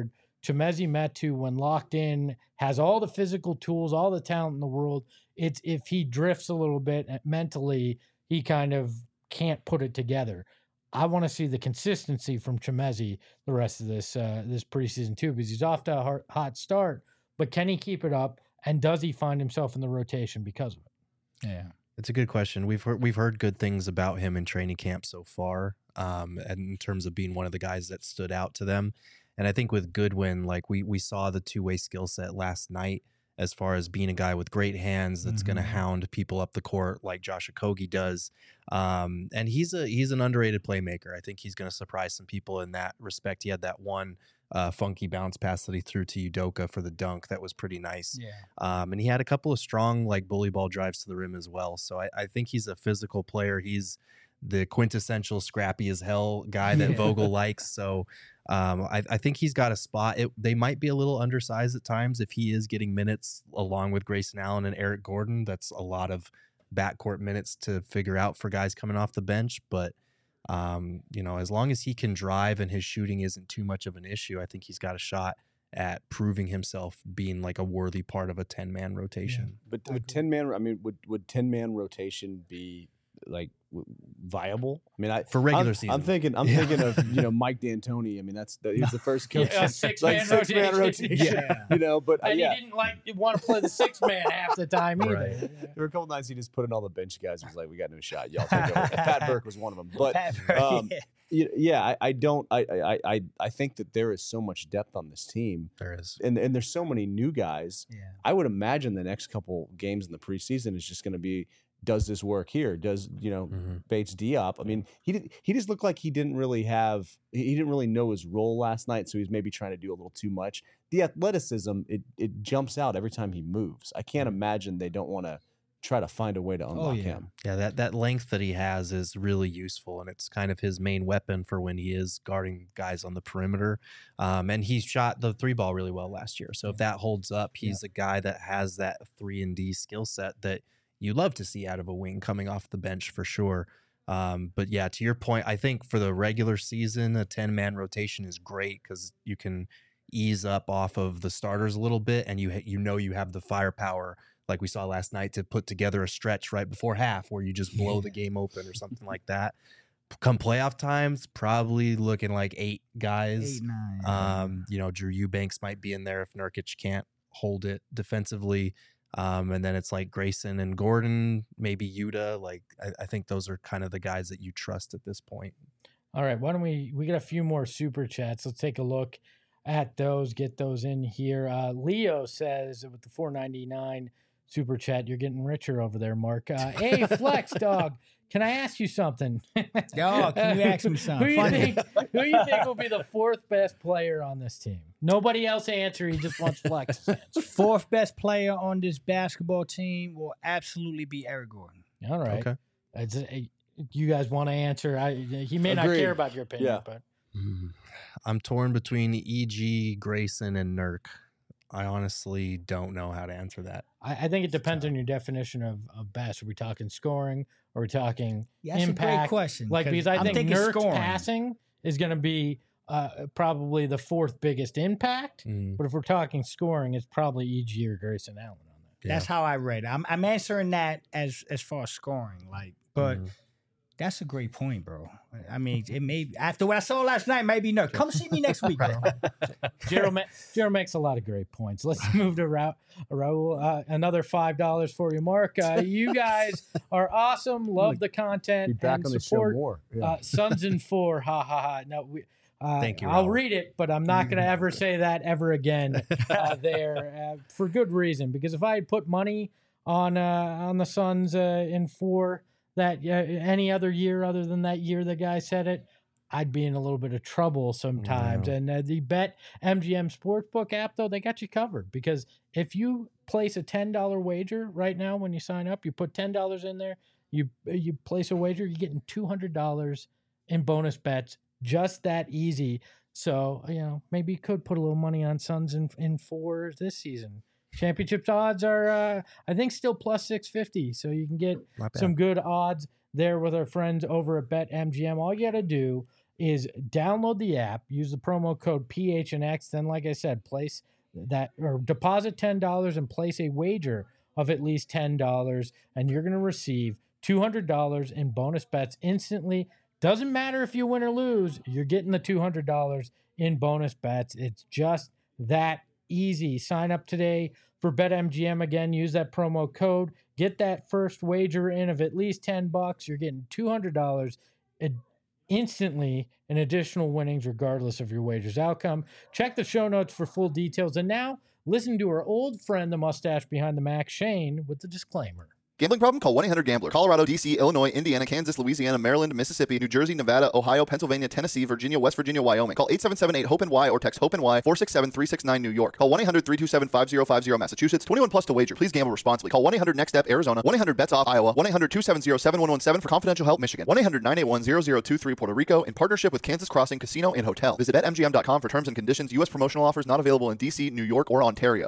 Chimezie Metu, when locked in, has all the physical tools, all the talent in the world. It's if he drifts a little bit mentally, he kind of can't put it together. I want to see the consistency from Chimezie the rest of this uh, this preseason too, because he's off to a hot, hot start. But can he keep it up? And does he find himself in the rotation because of it? Yeah. It's a good question. We've heard, we've heard good things about him in training camp so far, um, and in terms of being one of the guys that stood out to them. And I think with Goodwin, like we we saw the two way skill set last night as far as being a guy with great hands that's Mhm. going to hound people up the court like Josh Okogie does. Um, and he's a he's an underrated playmaker. I think he's going to surprise some people in that respect. He had that one uh, funky bounce pass that he threw to Udoka for the dunk that was pretty nice. Yeah. Um, and he had a couple of strong like bully ball drives to the rim as well. So I, I think he's a physical player. He's the quintessential scrappy as hell guy that Yeah. Vogel likes. So um, I, I think he's got a spot. It, they might be a little undersized at times if he is getting minutes along with Grayson Allen and Eric Gordon. That's a lot of backcourt minutes to figure out for guys coming off the bench. But um, you know, as long as he can drive and his shooting isn't too much of an issue, I think he's got a shot at proving himself being like a worthy part of a ten man rotation. But would ten man? I mean, would would ten man rotation be like w- viable? I mean, I For regular I'm, season. I'm thinking. I'm Yeah. thinking of you know Mike D'Antoni. I mean, that's the, he's the first coach. Yeah, six like man six man rotation. rotation. Yeah. You know, but uh, And yeah, he didn't like want to play the six man half the time either. Right. there were a couple nights he just put in all the bench guys. He was like, "We got no shot. Y'all take over." Pat Burke was one of them. But um, yeah. y- yeah, I, I don't. I, I I I think that there is so much depth on this team, There is. and and there's so many new guys. Yeah. I would imagine the next couple games in the preseason is just going to be, does this work here? Does, you know, Mhm. Bates Diop? I mean, he did, he just looked like he didn't really have, he he didn't really know his role last night, so he's maybe trying to do a little too much. The athleticism, it it jumps out every time he moves. I can't imagine they don't want to try to find a way to unlock yeah. him. Yeah, that, that length that he has is really useful, and it's kind of his main weapon for when he is guarding guys on the perimeter. Um, and he shot the three ball really well last year. So if that holds up, he's a guy that has that three and D skill set that you love to see out of a wing coming off the bench for sure. Um, but yeah, to your point, I think for the regular season, a ten man rotation is great because you can ease up off of the starters a little bit, and you ha- you know you have the firepower like we saw last night to put together a stretch right before half where you just blow the game open or something like that. Come playoff times, probably looking like eight guys. Eight, nine. Um, you know, Drew Eubanks might be in there if Nurkic can't hold it defensively. Um, and then it's like Grayson and Gordon, maybe Yuta. Like I, I think those are kind of the guys that you trust at this point. All right, why don't we we got a few more super chats. Let's take a look at those, get those in here. Uh, Leo says with the four ninety-nine super chat, you're getting richer over there, Mark. Uh, hey, Flex Dog, can I ask you something? Oh, can you ask me something? Who you Funny. think who you think will be the fourth best player on this team? Nobody else answer. He just wants Flex's answer. Fourth best player on this basketball team will absolutely be Eric Gordon. All right. Okay. It's, uh, you guys want to answer? I, he may not Agreed. care about your opinion, Yeah. but I'm torn between E G, Grayson, and Nurk. I honestly don't know how to answer that. I, I think it depends on your definition of, of best. Are we talking scoring? Or are we talking Yeah, that's a great impact? question. Like, because I I'm think thinking Nurk's scoring. passing is going to be uh, probably the fourth biggest impact. Mm, But if we're talking scoring, it's probably E G or Grayson Allen on that. That's how I read it. I'm, I'm answering that as as far as scoring. Like, but Mhm. that's a great point, bro. I mean, it may after what I saw last night, maybe no. Come see me next week, bro. Jero, ma- Jero makes a lot of great points. Let's move to Ra- Raul. Uh, another five dollars for you, Mark. Uh, you guys are awesome. Love the content Be back and on the support. show more. Yeah. Uh, Sons and Four, ha ha ha. No, we, uh, Thank you, I'll Raul. read it, but I'm not going to ever say that ever again uh, there uh, for good reason. Because if I had put money on uh, on the Suns uh, in four that uh, any other year other than that year the guy said it, I'd be in a little bit of trouble sometimes. Yeah. And uh, the Bet M G M Sportsbook app, though, they got you covered because if you place a ten dollar wager right now when you sign up, you put ten dollars in there, you you place a wager, you're getting two hundred dollars in bonus bets. Just that easy. So, you know, maybe you could put a little money on Suns in, in four this season. Championships odds are, uh, I think, still plus six fifty. So you can get Not bad. some good odds there with our friends over at Bet M G M. All you got to do is download the app, use the promo code P H N X, then like I said, place that or deposit ten dollars and place a wager of at least ten dollars, and you're going to receive two hundred dollars in bonus bets instantly. Doesn't matter if you win or lose, you're getting the two hundred dollars in bonus bets. It's just that easy. Sign up today for BetMGM. Again, use that promo code. Get that first wager in of at least ten bucks. You're getting two hundred dollars instantly in additional winnings regardless of your wager's outcome. Check the show notes for full details. And now, listen to our old friend, the mustache behind the Mac, Shane, with the disclaimer. Gambling problem? Call one eight hundred gambler. Colorado, D C, Illinois, Indiana, Kansas, Louisiana, Maryland, Mississippi, New Jersey, Nevada, Ohio, Pennsylvania, Tennessee, Virginia, West Virginia, Wyoming. Call eight seven seven eight, HOPE-N-Y or text HOPE-N-Y four six seven three six nine New York. Call one eight hundred three two seven five zero five zero Massachusetts. twenty-one plus to wager. Please gamble responsibly. Call one eight hundred next step Arizona. one eight hundred bets off Iowa. one eight hundred two seven zero seven one one seven for confidential help Michigan. one eight hundred nine eight one zero zero two three Puerto Rico in partnership with Kansas Crossing Casino and Hotel. Visit bet M G M dot com for terms and conditions. U S promotional offers not available in D C, New York, or Ontario.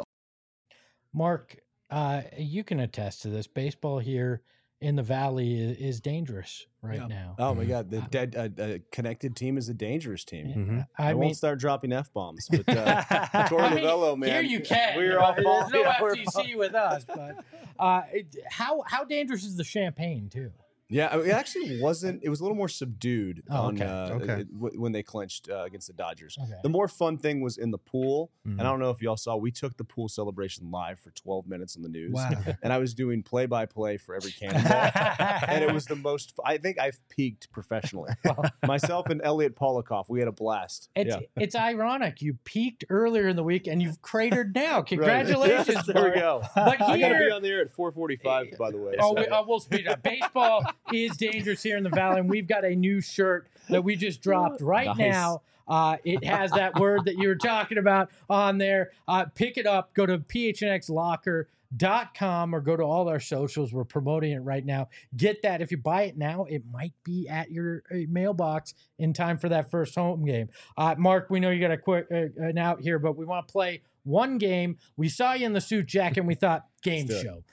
Mark, uh, you can attest to this. Baseball here in the Valley is, is dangerous right Yeah. now. Oh my God, the dead uh, uh, connected team is a dangerous team. Mhm. I, I, mean, won't start dropping f bombs, but uh, Torre I mean, Novello, man, here you can. We're you know, all There's no yeah, we're F T C with us, but uh, it, how how dangerous is the champagne too? Yeah, it actually wasn't. It was a little more subdued Oh, on okay. uh, Okay. it- w- when they clinched uh, against the Dodgers. Okay. The more fun thing was in the pool, Mhm. and I don't know if y'all saw. We took the pool celebration live for twelve minutes on the news, Wow. and I was doing play by play for every cannonball, and it was the most. I think I've peaked professionally. Myself and Elliot Polikoff, we had a blast. It's yeah. it's ironic. You peaked earlier in the week and you've cratered now. Right. Congratulations, Yes, there we Mark. go. But I got to here- be on the air at four forty-five, by the way. Oh, so- we, uh, we'll speed up. Baseball is dangerous here in the Valley, and we've got a new shirt that we just dropped right Nice. now. Uh, it has that word that you were talking about on there. Uh, pick it up. Go to P H N X locker dot com or go to all our socials. We're promoting it right now. Get that. If you buy it now, it might be at your uh, mailbox in time for that first home game. Uh, Mark, we know you got a quick uh, an out here, but we want to play one game. We saw you in the suit jacket, and we thought game Let's do it. show.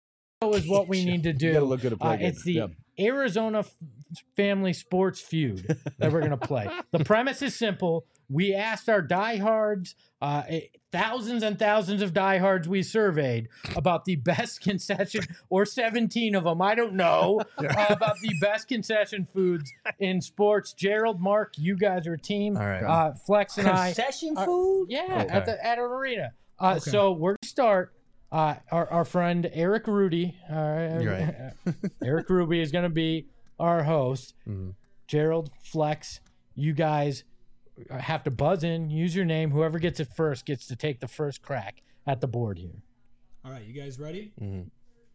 Is what we need to do. You gotta look good at play Uh, good. it's the Yeah. Arizona f- Family Sports Feud that we're going to play. The premise is simple. We asked our diehards, uh, eh, thousands and thousands of diehards we surveyed about the best concession, or seventeen of them, I don't know, uh, about the best concession foods in sports. Gerald, Mark, you guys are a team. All right. Uh, Flex and I. Concession are- food? Yeah, Okay. at, the, at an arena. Uh, Okay. So we're going to start. Uh, our, our friend Eric Rudy, uh, You're right. Eric Ruby is going to be our host. Mhm. Gerald, Flex, you guys have to buzz in, use your name. Whoever gets it first gets to take the first crack at the board here. All right, you guys ready? Mhm.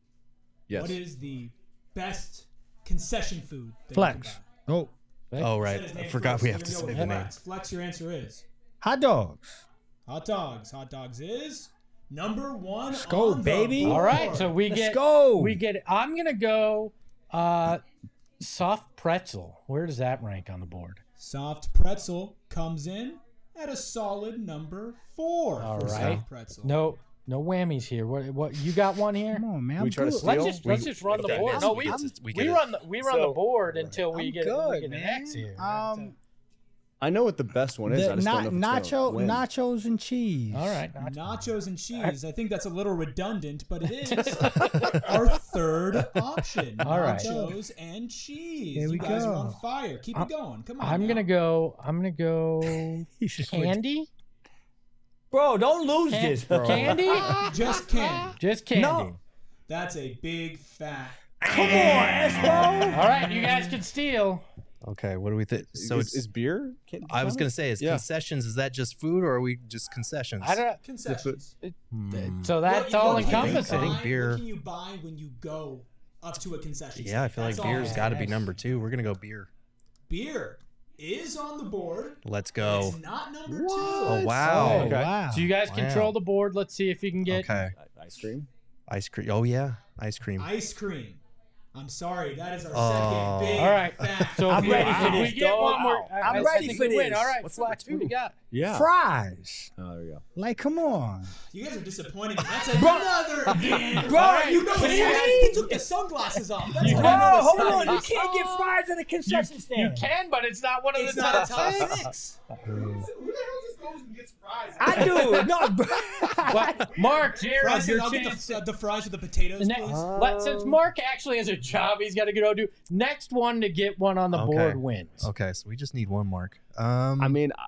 Yes. What is the best concession food? that you Flex. can buy? Oh, Oh, Said right. his I name forgot first, we so have to we're say gonna the go with name. Flex. Flex, your answer is hot dogs. hot dogs. Hot dogs is number one. Let's go, on the baby. board. All right, so we Let's get go. we get. I'm gonna go uh, soft pretzel. Where does that rank on the board? Soft pretzel comes in at a solid number four. All for right. soft pretzel. No, no whammies here. What? What? You got one here? Come on, man. We I'm try to good. steal? Let's just We- let's just run the okay, board. yes, No, we we get it. We we get it. run the we run the So- board until we I'm get good, we get man. an X here. Um, I know what the best one is. the I just na- don't know if it's nacho, gonna win. nachos and cheese. All right. Nachos and cheese. I think that's a little redundant, but it is our third option. All right. Nachos and cheese. There we you guys go. are on fire. Keep it going. Come on. I'm now. gonna go. I'm gonna go He just went- candy. Bro, don't lose Can- this, bro. Candy. Just candy. Just candy. No. That's a big fat. Come on, Espo. All right, you guys can steal. Okay, what do we think? So is, it's. is beer? Can, I was gonna say, is Yeah. concessions? Is that just food, or are we just concessions? I don't. Concessions. Hmm. So that's What- all what can you encompassing. I think buy- beer- What can you buy when you go up to a concession Yeah, I stand? feel like That's all. beer's got to be number two. We're gonna go beer. Beer is on the board. Let's go. It's not number Oh two. wow. Oh, Okay. Wow. So you guys Wow. control the board. Let's see if you can get. Okay. Ice cream. Ice cream. Oh yeah, ice cream. Ice cream. I'm sorry, that is our Oh. second big All right. fact. So I'm if ready we, for if this, we get dog. one more, I, I'm I, ready I think for we win. this. All right, What's Flex, what do you got? Yeah. Fries. Oh, there we go. Like, come on. You guys are disappointing me. That's another damn. Bro, Alright, you know kidding he me? took the sunglasses off. That's You- what Bro, I know hold this on. You is. can't get fries at a concession You stand. can, but it's not one of It's the not top a top ten. six. Who the hell just goes and gets fries? I do. No, bro. What? Mark, Jared, Fries, your I'll get chance. the, uh, the fries with the potatoes, The ne- please. let- since Mark actually has a job, he's got to go do. Next one to get one on the Okay. board wins. Okay, so we just need one mark. Um, I mean,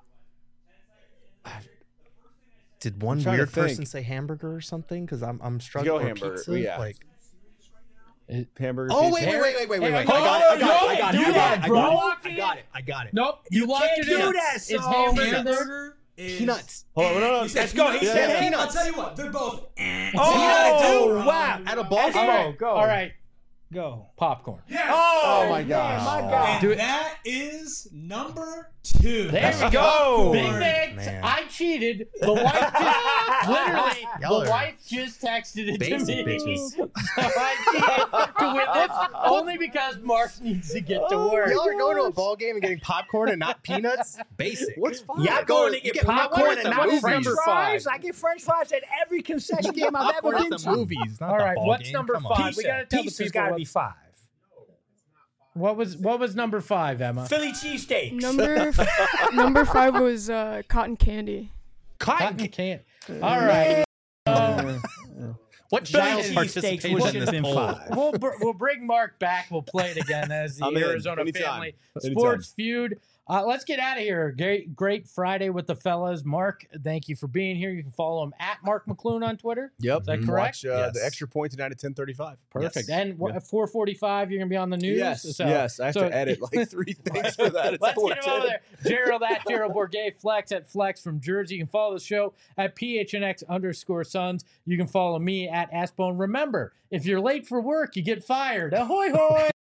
did one trying to weird person think. say hamburger or something? Because I'm I'm struggling. Go or hamburger, pizza, yeah. Like, hamburger. oh pizza. wait, wait, wait, wait, wait, wait, wait! Oh, I got it! I got no, it! I got it! you I got got it! it, I bro. got it! I got it! I got it! Nope, you, locked can't it do in. that, It's so- hamburger. Hamburger is Peanuts. Hold on, no, no, You said Let's go. He peanuts? said Yeah, peanuts. I'll tell you what, they're both. eh. Oh, wow. At a ball All game. right, go. all right, Go. popcorn. Oh, my man, gosh. my God. And that is number two. There we go. go. Big Popcorn. Nick, Man. I cheated. The wife just literally, Y'all the are wife just texted it to basic me. bitches. So I cheated to win this only because Mark needs to get to work. Y'all are going to a ball game and getting popcorn and not peanuts. Basic. What's fine? Y'all Go- going to you get get- popcorn what is and the- not what is French number fries? five? I get French fries at every concession game I've ever popcorn been at the to. movies? Not All the right, ball what's game. number Come on. five? We gotta tell the Pizza's people got to what- be five. What was what was number five, Emma? Philly cheesesteaks. Number f- number five was uh, cotton candy. Cotton can't. All right. What Philly child cheesesteaks participation would in have this been poll? five. We'll br- we'll bring Mark back. We'll play it again as the I'm in. Arizona Anytime. Family Anytime. Sports Feud. Uh, let's get out of here. Great, great Friday with the fellas. Mark, thank you for being here. You can follow him at Mark McClune on Twitter. Yep. Is that Mhm. correct? Watch uh, Yes. the extra point tonight at ten thirty-five. Perfect. Yes. And what, at four forty-five, you're going to be on the news? Yes. So- yes. I have so- to edit like three things for that. It's Let's four get him over ten. there. Gerald at Gerald Bourget, Flex at Flex from Jersey. You can follow the show at P H N X underscore Sons. You can follow me at Aspone. Remember, if you're late for work, you get fired. Ahoy, hoy!